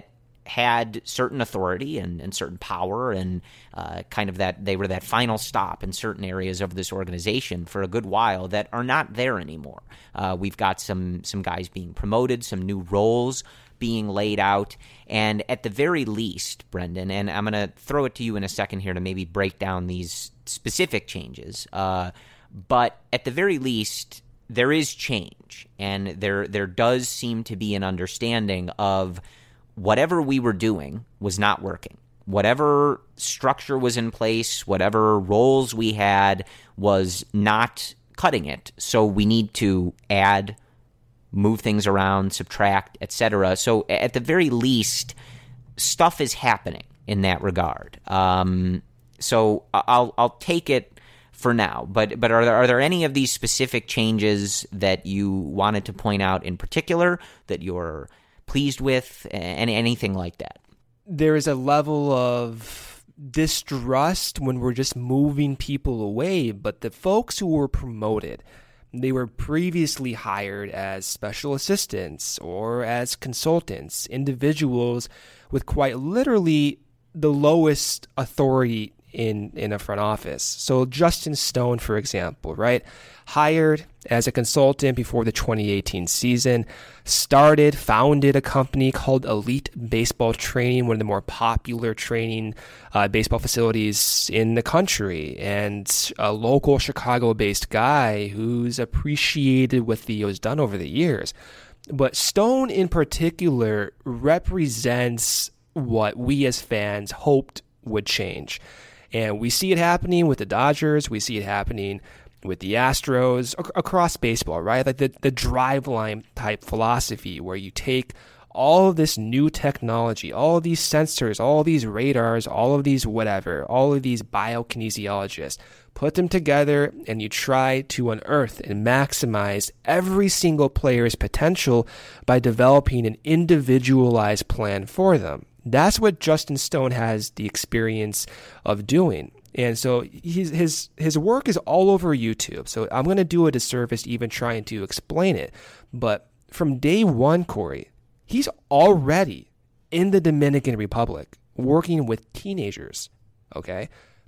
had certain authority and, and certain power and uh, kind of that they were that final stop in certain areas of this organization for a good while that are not there anymore. Uh, we've got some some guys being promoted, some new roles being laid out, and at the very least, Brendan, and I'm going to throw it to you in a second here to maybe break down these specific changes, uh, but at the very least, there is change, and there there does seem to be an understanding of whatever we were doing was not working. Whatever structure was in place, whatever roles we had was not cutting it. So we need to add, move things around, subtract, et cetera. So at the very least, stuff is happening in that regard. Um, so I'll I'll take it for now. But but are there are there any of these specific changes that you wanted to point out in particular that you're pleased with, and anything like that? There is a level of distrust when we're just moving people away, but the folks who were promoted, they were previously hired as special assistants or as consultants, individuals with quite literally the lowest authority in, in a front office. So Justin Stone, for example, right? Hired as a consultant before the twenty eighteen season, started, founded a company called Elite Baseball Training, one of the more popular training uh, baseball facilities in the country, and a local Chicago-based guy who's appreciated what Theo's done over the years. But Stone in particular represents what we as fans hoped would change. And we see it happening with the Dodgers. We see it happening with the Astros, ac- across baseball, right? Like the, the driveline type philosophy where you take all of this new technology, all of these sensors, all of these radars, all of these whatever, all of these biokinesiologists, put them together and you try to unearth and maximize every single player's potential by developing an individualized plan for them. That's what Justin Stone has the experience of doing. And so his his his work is all over YouTube. So I'm going to do a disservice even trying to explain it. But from day one, Corey, he's already in the Dominican Republic working with teenagers. Okay?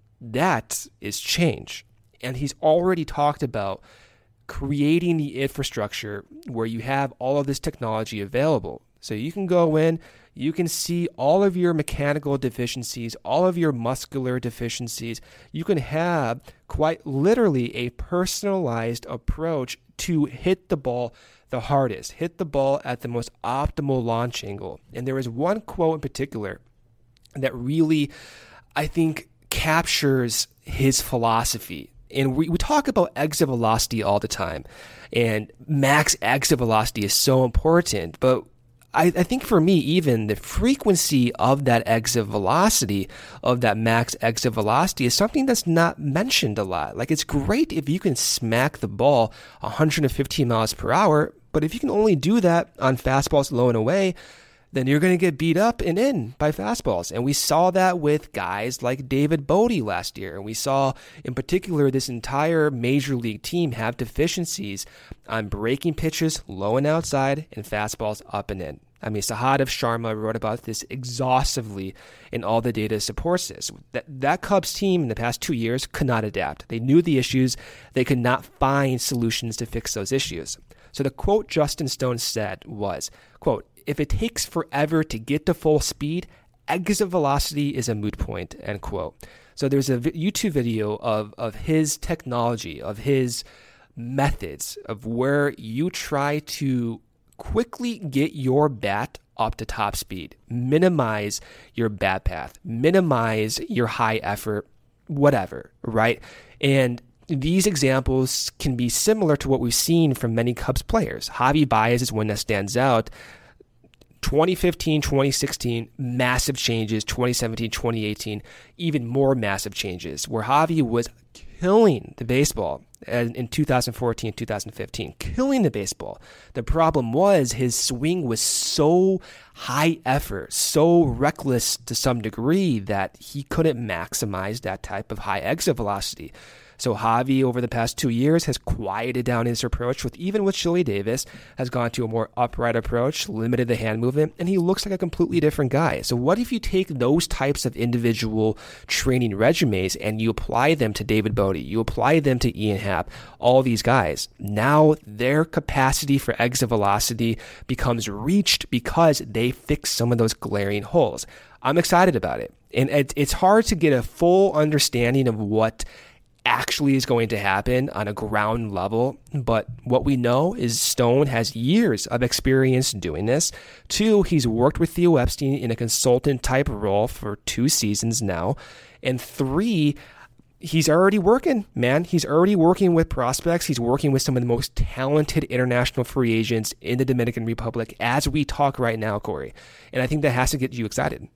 That is change. And he's already talked about creating the infrastructure where you have all of this technology available. So you can go in, you can see all of your mechanical deficiencies, all of your muscular deficiencies. You can have quite literally a personalized approach to hit the ball the hardest, hit the ball at the most optimal launch angle. And there is one quote in particular that really, I think, captures his philosophy. And we, we talk about exit velocity all the time, and max exit velocity is so important, but I, I think for me, even the frequency of that exit velocity, of that max exit velocity, is something that's not mentioned a lot. Like, it's great if you can smack the ball one hundred fifteen miles per hour, but if you can only do that on fastballs low and away, then you're going to get beat up and in by fastballs. And we saw that with guys like David Bodie last year. And we saw, in particular, this entire major league team have deficiencies on breaking pitches low and outside and fastballs up and in. I mean, Sahadev Sharma wrote about this exhaustively, and all the data supports this. That, that Cubs team in the past two years could not adapt. They knew the issues. They could not find solutions to fix those issues. So the quote Justin Stone said was, quote, "If it takes forever to get to full speed, exit velocity is a moot point," end quote. So there's a YouTube video of, of his technology, of his methods, of where you try to quickly get your bat up to top speed, minimize your bat path, minimize your high effort, whatever, right? And these examples can be similar to what we've seen from many Cubs players. Javi Baez is one that stands out. twenty fifteen, twenty sixteen, massive changes. twenty seventeen, twenty eighteen, even more massive changes, where Javi was killing the baseball in two thousand fourteen, two thousand fifteen, killing the baseball. The problem was his swing was so high effort, so reckless to some degree that he couldn't maximize that type of high exit velocity. So Javi, over the past two years, has quieted down his approach, with even with Chili Davis, has gone to a more upright approach, limited the hand movement, and he looks like a completely different guy. So what if you take those types of individual training regimens and you apply them to David Bodie, you apply them to Ian Happ, all these guys? Now their capacity for exit velocity becomes reached because they fix some of those glaring holes. I'm excited about it. And it's hard to get a full understanding of what actually is going to happen on a ground level, but what we know is Stone has years of experience doing this. Two, he's worked with Theo Epstein in a consultant type role for two seasons now. And three, he's already working, man. He's already working with prospects. He's working with some of the most talented international free agents in the Dominican Republic as we talk right now, Corey. And I think that has to get you excited.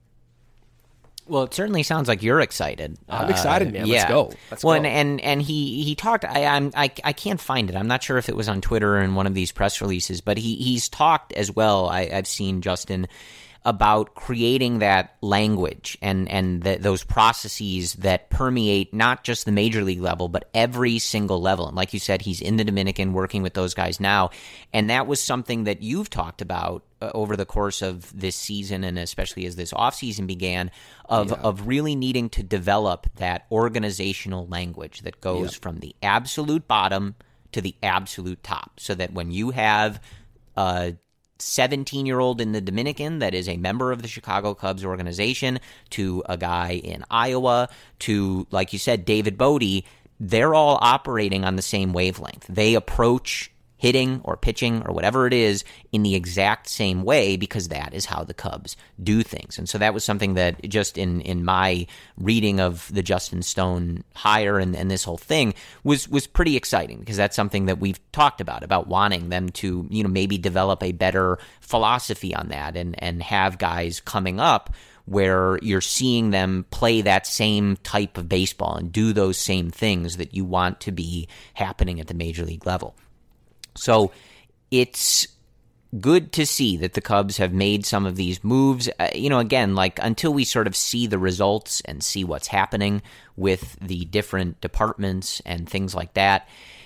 Well, it certainly sounds like you're excited. I'm excited, man. Uh, yeah. Let's go. Let's well, go. And, and and he he talked. I I'm I I can't find it. I'm not sure if it was on Twitter or in one of these press releases, but he he's talked as well. I, I've seen Justin about creating that language and and the, those processes that permeate not just the major league level, but every single level. And like you said, he's in the Dominican working with those guys now, and that was something that you've talked about uh, over the course of this season, and especially as this offseason began, of yeah. of really needing to develop that organizational language that goes yeah. from the absolute bottom to the absolute top, so that when you have uh seventeen-year-old in the Dominican that is a member of the Chicago Cubs organization, to a guy in Iowa, to, like you said, David Bodie, they're all operating on the same wavelength. They approach hitting or pitching or whatever it is in the exact same way, because that is how the Cubs do things. And so that was something that just in, in my reading of the Justin Stone hire and, and this whole thing was was pretty exciting, because that's something that we've talked about, about wanting them to, you know, maybe develop a better philosophy on that and, and have guys coming up where you're seeing them play that same type of baseball and do those same things that you want to be happening at the major league level. So it's good to see that the Cubs have made some of these moves. Uh, you know, again, like until we sort of see the results and see what's happening with the different departments and things like that,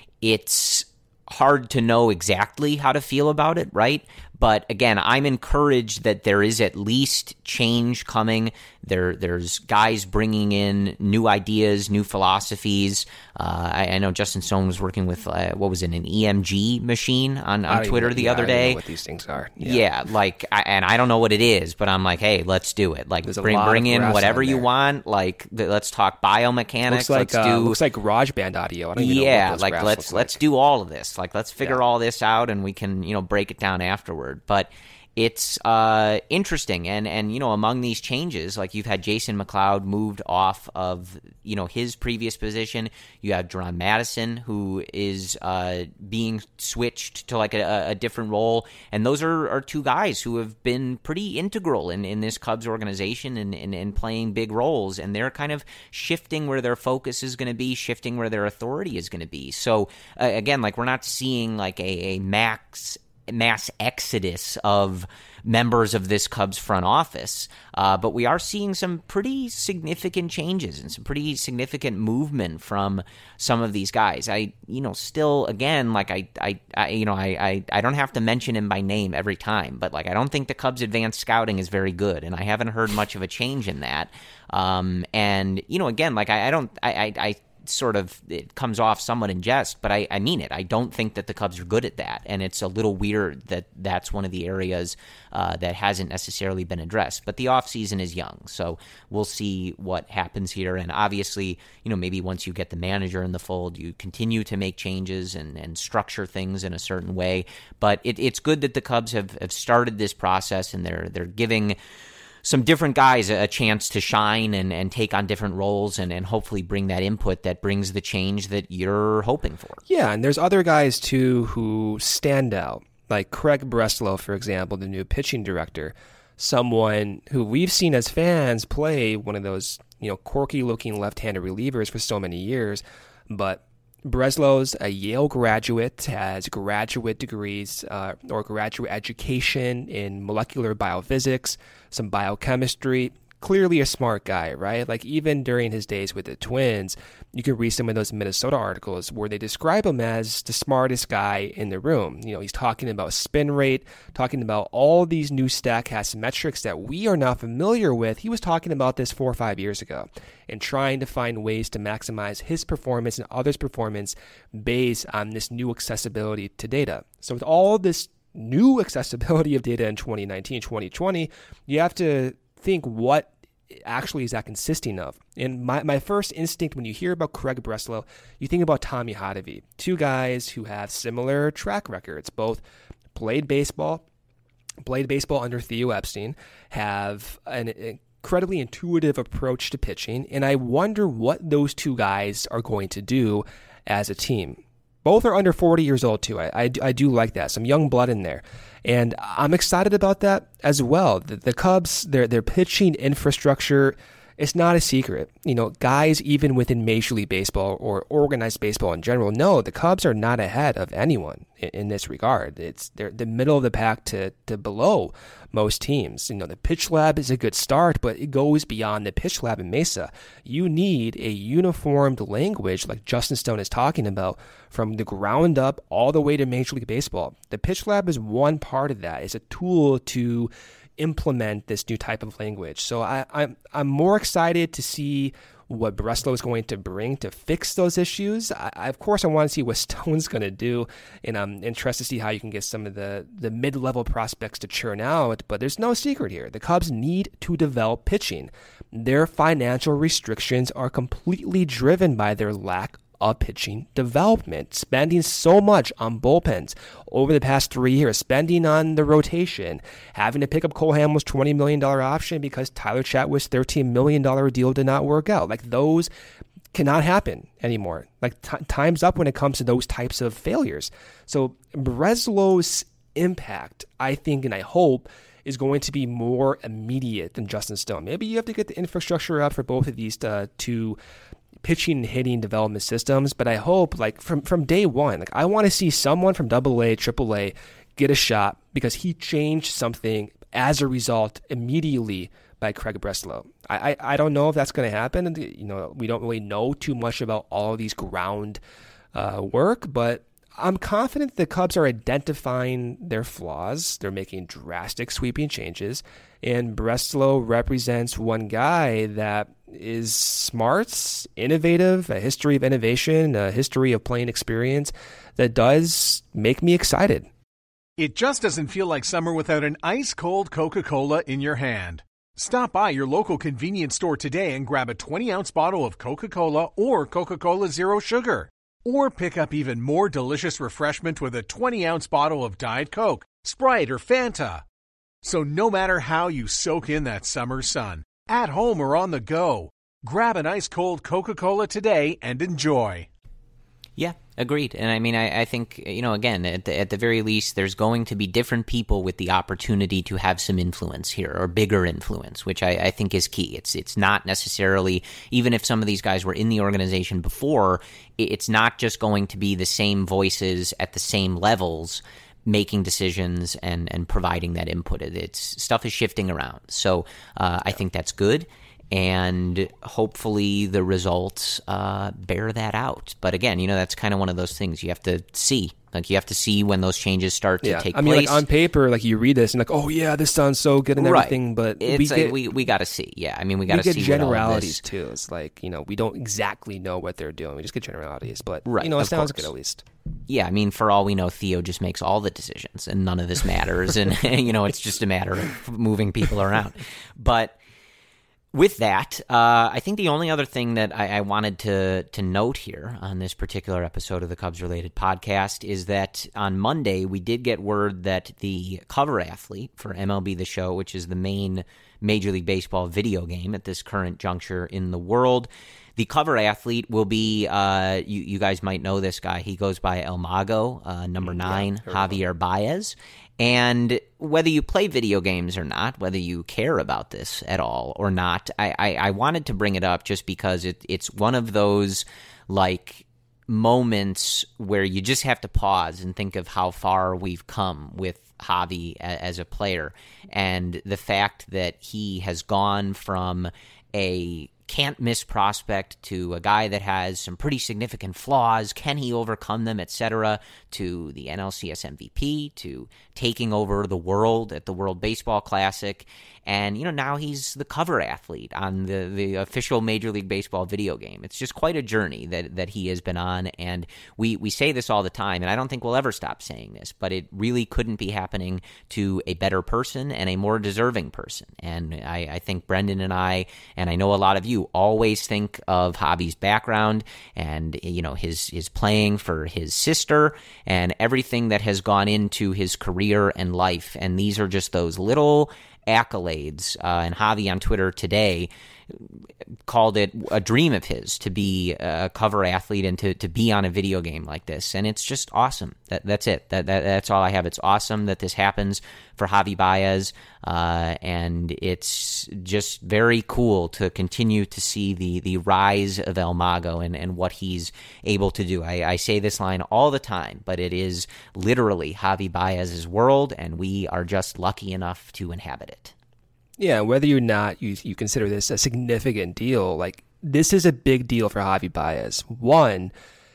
it's hard to know exactly how to feel about it, right? But again, I'm encouraged that there is at least change coming. There, there's guys bringing in new ideas, new philosophies. Uh, I, I know Justin Stone was working with, uh, what was it, an E M G machine on, on Twitter even, the yeah, other I don't day. know what these things are. Yeah, yeah like, I, and I don't know what it is, but I'm like, hey, let's do it. Like, There's a bring lot bring of in graphs whatever on you there. want. Like, th- let's talk biomechanics. Looks like let's uh, do looks like GarageBand audio. I don't even know yeah, what those like graphs let's look let's like. do all of this. Like, let's figure Yeah. all this out, and we can, you know, break it down afterward. But it's uh, interesting, and and you know, among these changes, like you've had Jason McLeod moved off of, you know, his previous position. You have Jerron Madison, who is uh, being switched to like a, a different role, and those are, are two guys who have been pretty integral in, in this Cubs organization and, and, and playing big roles, and they're kind of shifting where their focus is going to be, shifting where their authority is going to be. So uh, again, like we're not seeing like a, a max mass exodus of members of this Cubs front office, uh, but we are seeing some pretty significant changes and some pretty significant movement from some of these guys. I, you know, still, again, like I, I, I you know, I, I, I don't have to mention him by name every time, but like I don't think the Cubs' advanced scouting is very good, and I haven't heard much of a change in that. Um, and you know, again, like I, I don't, I, I, I sort of, it comes off somewhat in jest, but I, I mean it. I don't think that the Cubs are good at that, and it's a little weird that that's one of the areas uh, that hasn't necessarily been addressed. But the offseason is young, so we'll see what happens here. And obviously, you know, maybe once you get the manager in the fold, you continue to make changes and, and structure things in a certain way. But it, it's good that the Cubs have, have started this process, and they're they're giving some different guys a chance to shine and, and take on different roles and, and hopefully bring that input that brings the change that you're hoping for. Yeah, and there's other guys, too, who stand out, like Craig Breslow, for example, the new pitching director, someone who we've seen as fans play one of those, you know, quirky-looking left-handed relievers for so many years, but Breslow's a Yale graduate, has graduate degrees uh, or graduate education in molecular biophysics, some biochemistry, clearly a smart guy, right? Like even during his days with the Twins, you can read some of those Minnesota articles where they describe him as the smartest guy in the room. You know, he's talking about spin rate, talking about all these new StatCast metrics that we are not familiar with. He was talking about this four or five years ago and trying to find ways to maximize his performance and others' performance based on this new accessibility to data. So with all this new accessibility of data in twenty nineteen, twenty twenty, you have to think what actually is that consisting of. And my, my first instinct when you hear about Craig Breslow, you think about Tommy Hotovy, two guys who have similar track records, both played baseball, played baseball under Theo Epstein, have an incredibly intuitive approach to pitching, and I wonder what those two guys are going to do as a team. Both are under forty years old, too. I, I, I do like that. Some young blood in there. And I'm excited about that as well. The, the Cubs, their their pitching infrastructure, it's not a secret. You know, guys even within Major League Baseball or organized baseball in general know the Cubs are not ahead of anyone in, in this regard. It's they're the middle of the pack to, to below most teams. You know, the pitch lab is a good start, but it goes beyond the pitch lab in Mesa. You need a uniformed language like Justin Stone is talking about from the ground up all the way to Major League Baseball. The pitch lab is one part of that. It's a tool to implement this new type of language. So I, I'm I'm more excited to see what Breslow is going to bring to fix those issues. I, I, of course, I want to see what Stone's going to do, and I'm interested to see how you can get some of the, the mid-level prospects to churn out, but there's no secret here. The Cubs need to develop pitching. Their financial restrictions are completely driven by their lack of pitching development, spending so much on bullpens over the past three years, spending on the rotation, having to pick up Cole Hamels' twenty million dollars option because Tyler Chatwood's thirteen million dollars deal did not work out. Like, those cannot happen anymore. Like, t- time's up when it comes to those types of failures. So Breslow's impact, I think, and I hope, is going to be more immediate than Justin Stone. Maybe you have to get the infrastructure up for both of these to, to pitching and hitting development systems, but I hope, like, from, from day one, like, I want to see someone from double A, triple A get a shot because he changed something as a result immediately by Craig Breslow. I, I, I don't know if that's going to happen. You know, we don't really know too much about all of these ground uh, work, but I'm confident the Cubs are identifying their flaws. They're making drastic sweeping changes, and Breslow represents one guy that is smart, innovative, a history of innovation, a history of playing experience that does make me excited. It just doesn't feel like summer without an ice-cold Coca-Cola in your hand. Stop by your local convenience store today and grab a twenty-ounce bottle of Coca-Cola or Coca-Cola Zero Sugar. Or pick up even more delicious refreshment with a twenty-ounce bottle of Diet Coke, Sprite, or Fanta. So no matter how you soak in that summer sun, at home or on the go, grab an ice-cold Coca-Cola today and enjoy. Yeah, agreed. And I mean, I, I think, you know, again, at the, at the very least, there's going to be different people with the opportunity to have some influence here, or bigger influence, which I, I think is key. It's it's not necessarily, even if some of these guys were in the organization before, it's not just going to be the same voices at the same levels making decisions and, and providing that input. It's stuff is shifting around. So uh, I think that's good. And hopefully the results uh, bear that out. But again, you know, that's kind of one of those things you have to see. Like, you have to see when those changes start to yeah. take I mean, place. like, on paper, like, you read this and like, oh yeah, this sounds so good and right. everything, but it's we like, get, we we got to see. Yeah, I mean, we got to see get generalities what too. It's like, you know, we don't exactly know what they're doing. We just get generalities, but right, you know, it sounds course. good at least. Yeah, I mean, for all we know, Theo just makes all the decisions, and none of this matters. And you know, it's just a matter of moving people around. But with that, uh, I think the only other thing that I, I wanted to to note here on this particular episode of the Cubs-related podcast is that on Monday, we did get word that the cover athlete for M L B The Show, which is the main Major League Baseball video game at this current juncture in the world, the cover athlete will be, uh, you, you guys might know this guy. He goes by El Mago, uh, number nine, yeah, Javier Baez. And whether you play video games or not, whether you care about this at all or not, I, I, I wanted to bring it up just because it, it's one of those, like, moments where you just have to pause and think of how far we've come with Javi a, as a player, and the fact that he has gone from a can't miss prospect to a guy that has some pretty significant flaws. Can he overcome them, et cetera, to the N L C S M V P, to taking over the world at the World Baseball Classic. And, you know, now he's the cover athlete on the, the official Major League Baseball video game. It's just quite a journey that, that he has been on. And we, we say this all the time, and I don't think we'll ever stop saying this, but it really couldn't be happening to a better person and a more deserving person. And I, I think Brendan and I, and I know a lot of you, always think of Javi's background and, you know, his, his playing for his sister and everything that has gone into his career and life. And these are just those little accolades. Uh, and Javi on Twitter today called it a dream of his to be a cover athlete and to, to be on a video game like this. And it's just awesome. That That's it. That, that That's all I have. It's awesome that this happens for Javi Baez. Uh, and it's just very cool to continue to see the, the rise of El Mago and, and what he's able to do. I, I say this line all the time, but it is literally Javi Baez's world, and we are just lucky enough to inhabit it. Yeah, whether or not you you consider this a significant deal, like this is a big deal for Javi Baez. One,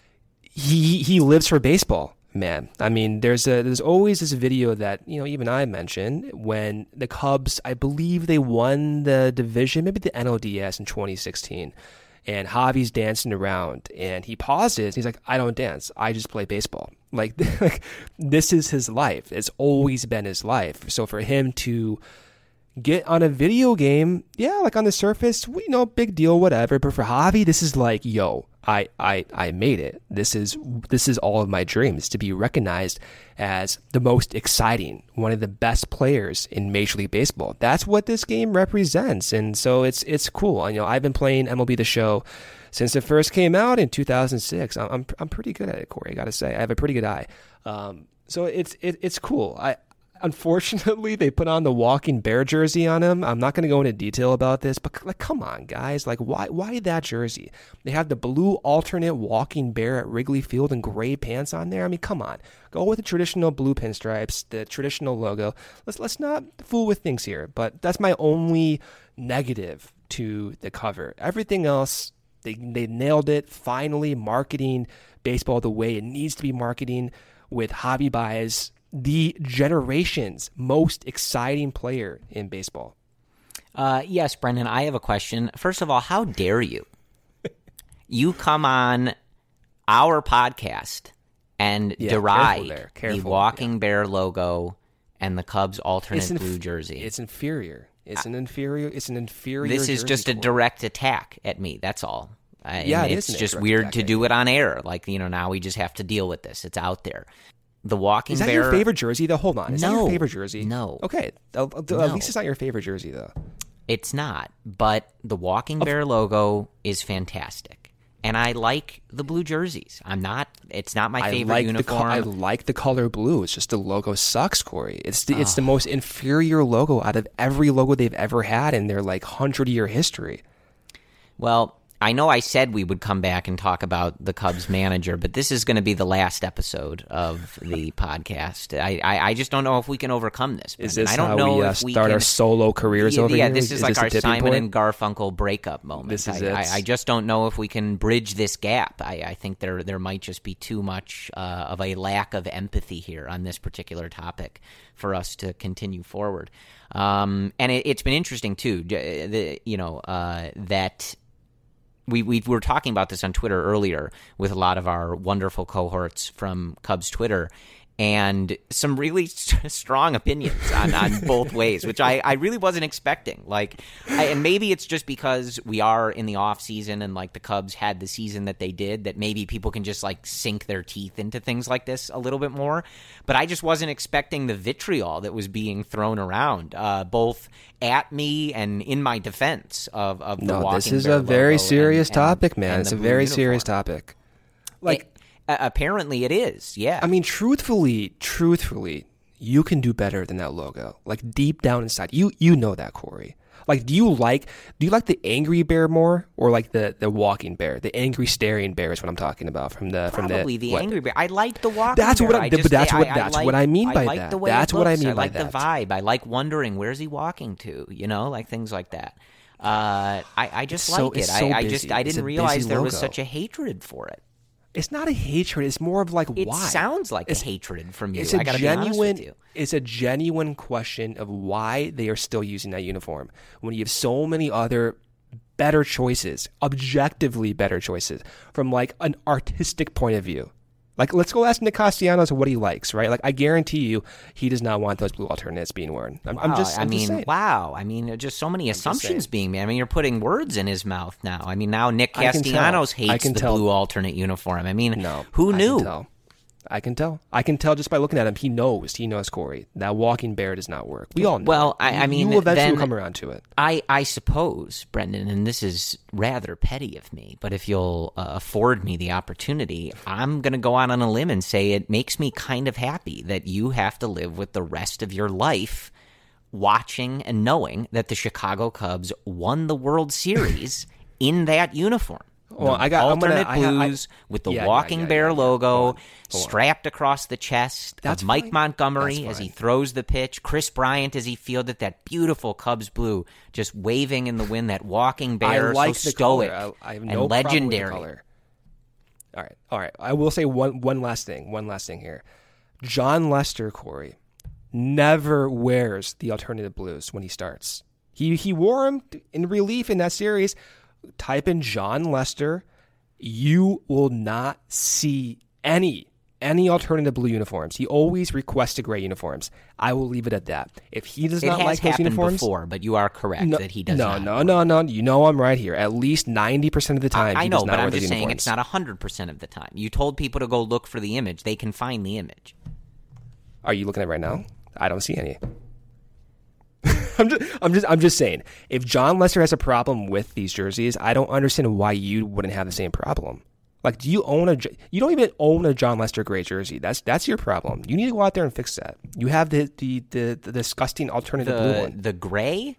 he he lives for baseball, man. I mean, there's a there's always this video that, you know, even I mentioned when the Cubs, I believe they won the division, maybe the N L D S in twenty sixteen, and Javi's dancing around and he pauses. He's like, I don't dance. I just play baseball. Like, like this is his life. It's always been his life. So for him to get on a video game, yeah, like on the surface, we know, big deal, whatever. But for Javi, this is like, yo, I, I, I made it. This is this is all of my dreams, to be recognized as the most exciting, one of the best players in Major League Baseball. That's what this game represents, and so it's it's cool. And, you know, I've been playing M L B The Show since it first came out in two thousand six. I'm I'm, I'm pretty good at it, Corey. I gotta say, I have a pretty good eye. Um, so it's it, it's cool. I. Unfortunately, they put on the Walking Bear jersey on him. I'm not going to go into detail about this, but like, come on, guys. Like, why why that jersey? They have the blue alternate Walking Bear at Wrigley Field and gray pants on there. I mean, come on. Go with the traditional blue pinstripes, the traditional logo. Let's let's not fool with things here. But that's my only negative to the cover. Everything else, they they nailed it. Finally, marketing baseball the way it needs to be marketing, with Javi Baez, the generation's most exciting player in baseball. Uh, yes, Brendan, I have a question. First of all, how dare you? You come on our podcast and Yeah, deride careful there, careful, the Walking yeah. Bear logo and the Cubs' alternate It's inf- blue jersey. It's inferior. It's an inferior. It's an inferior. This is jersey just a color. direct attack at me. That's all. I, Yeah, and it it's is a just direct weird attack to at do you. it on air. Like, you know, now we just have to deal with this. It's out there. The Walking Is that Bear. your favorite jersey, though? Hold on. Is that No. your favorite jersey? No. Okay. At at No. least it's not your favorite jersey, though. It's not, but the Walking Bear logo is fantastic, and I like the blue jerseys. I'm not. It's not my I favorite like uniform. The co- I like the color blue. It's just the logo sucks, Corey. It's the, it's the most inferior logo out of every logo they've ever had in their like hundred year history. Well, I know I said we would come back and talk about the Cubs manager, but this is going to be the last episode of the podcast. I, I, I just don't know if we can overcome this. Is Brendan. this I don't how know we uh, if we start can, our solo careers yeah, over yeah, here? this is, Is like this a our tipping Simon point? and Garfunkel breakup moment. This is I, it. I, I just don't know if we can bridge this gap. I, I think there there might just be too much uh, of a lack of empathy here on this particular topic for us to continue forward. Um, and it, it's been interesting too. The, you know uh, that. We, we were talking about this on Twitter earlier with a lot of our wonderful cohorts from Cubs Twitter, and some really st- strong opinions on, on both ways, which I, I really wasn't expecting. Like, I, and maybe it's just because we are in the off season and like the Cubs had the season that they did, that maybe people can just like sink their teeth into things like this a little bit more. But I just wasn't expecting the vitriol that was being thrown around, uh, both at me and in my defense of, of the No, Walking this is Bear a very logo serious and- and- topic, man. and It's the a blue very uniform. serious topic. Like, It- uh, apparently it is, yeah. I mean, truthfully, truthfully, you can do better than that logo. Like deep down inside, you you know that, Corey. Like, do you like do you like the angry bear more, or like the, the walking bear? The angry staring bear is what I'm talking about. From the from probably the, the what? angry bear. I like the walking. That's bear. what. I, I but just, that's I, what I, that's I like, what I mean by I like that. The way That's it what I looks. mean I by like that. the vibe. I like wondering where's he walking to. You know, like things like that. Uh, I I just It's so- like it. it's so I, I busy. just I It's didn't a realize busy there was logo. such a hatred for it. It's not a hatred. It's more of like It why. sounds like it's, a hatred from you. It's a I gotta genuine. be honest with you. It's a genuine question of why they are still using that uniform when you have so many other better choices, objectively better choices from like an artistic point of view. Like, let's go ask Nick Castellanos what he likes, right? Like, I guarantee you, he does not want those blue alternates being worn. I'm, Wow, I'm just, I'm I mean, just saying. wow. I mean, just so many assumptions saying. being made. I mean, you're putting words in his mouth now. I mean, now Nick I can tell. Castellanos I hates can the tell. blue alternate uniform. I mean, No, who I knew? can tell. I can tell. I can tell just by looking at him. He knows. He knows, Corey. That walking bear does not work. We all know. Well, it. I- I You- mean, you will eventually then- come around to it. I, I suppose, Brendan, and this is rather petty of me, but if you'll uh, afford me the opportunity, I'm going to go out on a limb and say it makes me kind of happy that you have to live with the rest of your life watching and knowing that the Chicago Cubs won the World Series in that uniform. Well, The I got- I'm gonna- alternate I ha- I- blues with the Yeah, yeah, walking yeah, bear yeah, yeah. logo Hold on, hold on. strapped across the chest That's of Mike fine. Montgomery That's as he fine. throws the pitch. Chris Bryant as he fielded that beautiful Cubs blue, just waving in the wind. That walking bear, I like so the stoic color. I, I have and no problem with the legendary. color. All right, all right. I will say one one last thing. One last thing here. John Lester, Corey, never wears the alternative blues when he starts. He he wore them in relief in that series. Type in John Lester. You will not see any any alternative blue uniforms. He always requested gray uniforms. I will leave it at that. If he does It not has like those happened uniforms, before, but you are correct no, that he does no, not. no, no, no. You know I'm right here. At least ninety percent of the time, I, I he know, does not but wear I'm those just saying uniforms. it's not one hundred percent of the time. You told people to go look for the image. They can find the image. Are you looking at it right now? I don't see any. I'm just, I'm just, I'm just saying. If John Lester has a problem with these jerseys, I don't understand why you wouldn't have the same problem. Like, do you own a? You don't even own a John Lester gray jersey. That's that's your problem. You need to go out there and fix that. You have the the the, the disgusting alternative blue The one. the gray?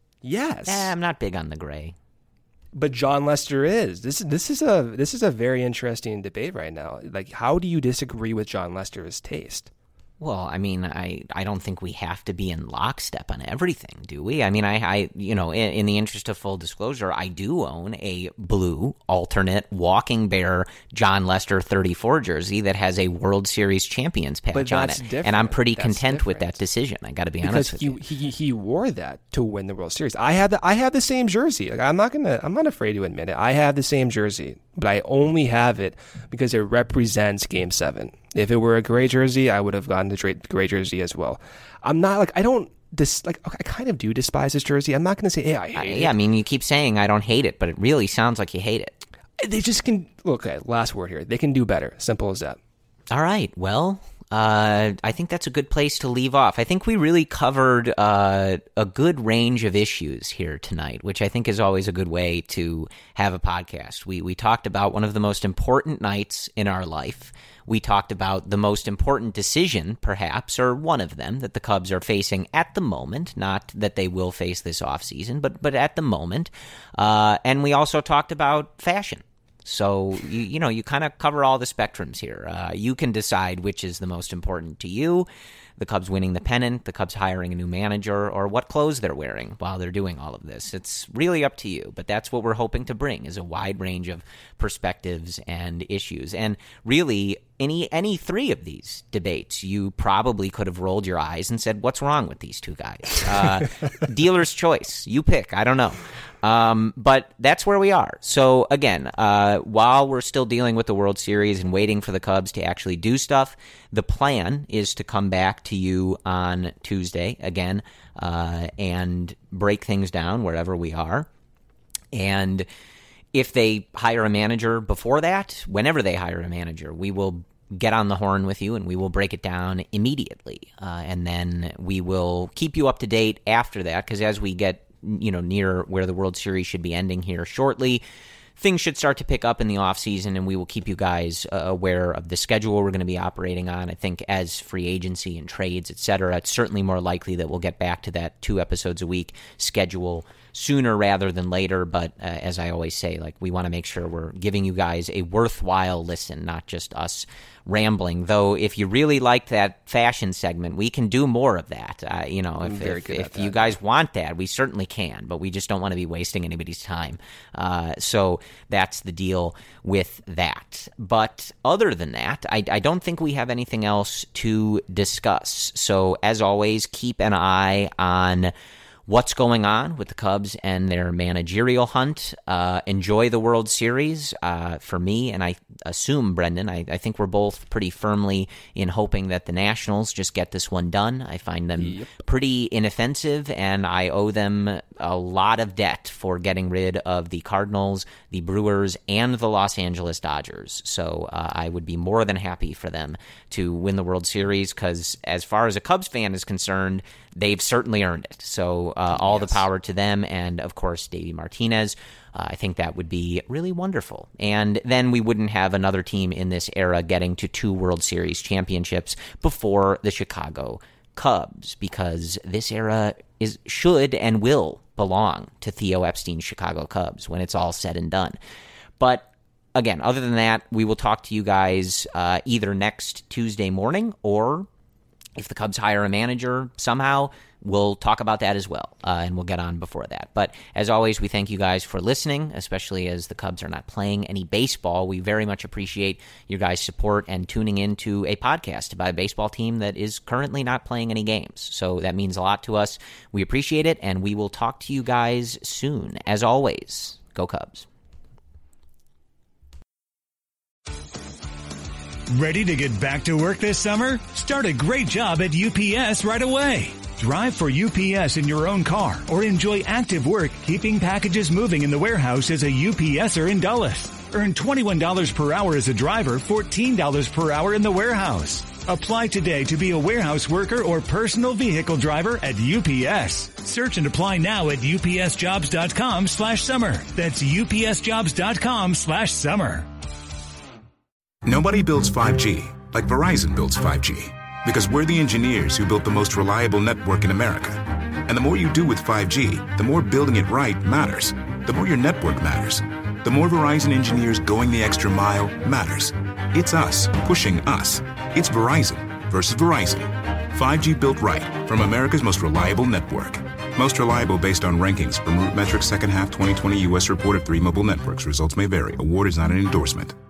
Yes, Eh, I'm not big on the gray. but John Lester is. This is this is a this is a very interesting debate right now. Like, how do you disagree with John Lester's taste? Well, I mean, I, I don't think we have to be in lockstep on everything, do we? I mean, I, I you know, in, in the interest of full disclosure, I do own a blue alternate walking bear John Lester thirty-four jersey that has a World Series champions patch But on that's it, different. and I'm pretty That's content with different. that decision. I got to be Because honest with he, you. he he wore that to win the World Series. I have the I have the same jersey. Like, I'm not gonna I'm not afraid to admit it. I have the same jersey, but I only have it because it represents Game Seven. If it were a gray jersey, I would have gotten the gray, gray jersey as well. I'm not like I don't dis like I kind of do despise this jersey. I'm not gonna say hey I hate I, it. yeah, I mean, you keep saying I don't hate it, but it really sounds like you hate it. They just can. Okay, last word here. They can do better. Simple as that. All right. Well, uh, I think that's a good place to leave off. I think we really covered uh, a good range of issues here tonight, which I think is always a good way to have a podcast. We we talked about one of the most important nights in our life. We talked about the most important decision, perhaps, or one of them, that the Cubs are facing at the moment. Not that they will face this offseason, but but at the moment. Uh, and we also talked about fashion. So, you, you know, you kind of cover all the spectrums here. Uh, you can decide which is the most important to you, the Cubs winning the pennant, the Cubs hiring a new manager, or what clothes they're wearing while they're doing all of this. It's really up to you, but that's what we're hoping to bring is a wide range of perspectives and issues. And really, any any three of these debates, you probably could have rolled your eyes and said, what's wrong with these two guys? Uh, dealer's choice. You pick. I don't know. Um, but that's where we are. So again, uh, while we're still dealing with the World Series and waiting for the Cubs to actually do stuff, the plan is to come back to you on Tuesday again, uh, and break things down wherever we are. And if they hire a manager before that, whenever they hire a manager, we will get on the horn with you and we will break it down immediately. Uh, and then we will keep you up to date after that, because as we get you know, near where the World Series should be ending here shortly, things should start to pick up in the offseason, and we will keep you guys uh, aware of the schedule we're going to be operating on. I think as free agency and trades, et cetera, it's certainly more likely that we'll get back to that two episodes a week schedule sooner rather than later. But uh, as I always say, like, we want to make sure we're giving you guys a worthwhile listen, not just us rambling. Though if you really like that fashion segment, we can do more of that. Uh, you know, if, if, if you guys want that, we certainly can, but we just don't want to be wasting anybody's time. Uh, so that's the deal with that. But other than that, I, I don't think we have anything else to discuss. So as always, keep an eye on what's going on with the Cubs and their managerial hunt. Uh, enjoy the World Series. Uh, for me, and I assume, Brendan, I, I think we're both pretty firmly in hoping that the Nationals just get this one done. I find them yep. pretty inoffensive, and I owe them a lot of debt for getting rid of the Cardinals, the Brewers, and the Los Angeles Dodgers. So uh, I would be more than happy for them to win the World Series, because as far as a Cubs fan is concerned, they've certainly earned it. So uh, all yes. the power to them, and of course, Davey Martinez. Uh, I think that would be really wonderful. And then we wouldn't have another team in this era getting to two World Series championships before the Chicago Cubs, because this era is should and will belong to Theo Epstein's Chicago Cubs when it's all said and done. But again, other than that, we will talk to you guys uh, either next Tuesday morning, or if the Cubs hire a manager somehow, we'll talk about that as well, uh, and we'll get on before that. But as always, we thank you guys for listening, especially as the Cubs are not playing any baseball. We very much appreciate your guys' support and tuning into a podcast about a baseball team that is currently not playing any games. So that means a lot to us. We appreciate it, and we will talk to you guys soon. As always, go Cubs. Ready to get back to work this summer? Start a great job at U P S right away. Drive for U P S in your own car, or enjoy active work keeping packages moving in the warehouse as a UPSer in Dulles. Earn twenty-one dollars per hour as a driver, fourteen dollars per hour in the warehouse. Apply today to be a warehouse worker or personal vehicle driver at U P S. Search and apply now at upsjobs.com slash summer. That's upsjobs.com slash summer. Nobody builds five G like Verizon builds five G, because we're the engineers who built the most reliable network in America. And the more you do with five G, the more building it right matters. The more your network matters. The more Verizon engineers going the extra mile matters. It's us pushing us. It's Verizon versus Verizon. five G built right from America's most reliable network. Most reliable based on rankings from RootMetrics second half twenty twenty U S report of three mobile networks. Results may vary. Award is not an endorsement.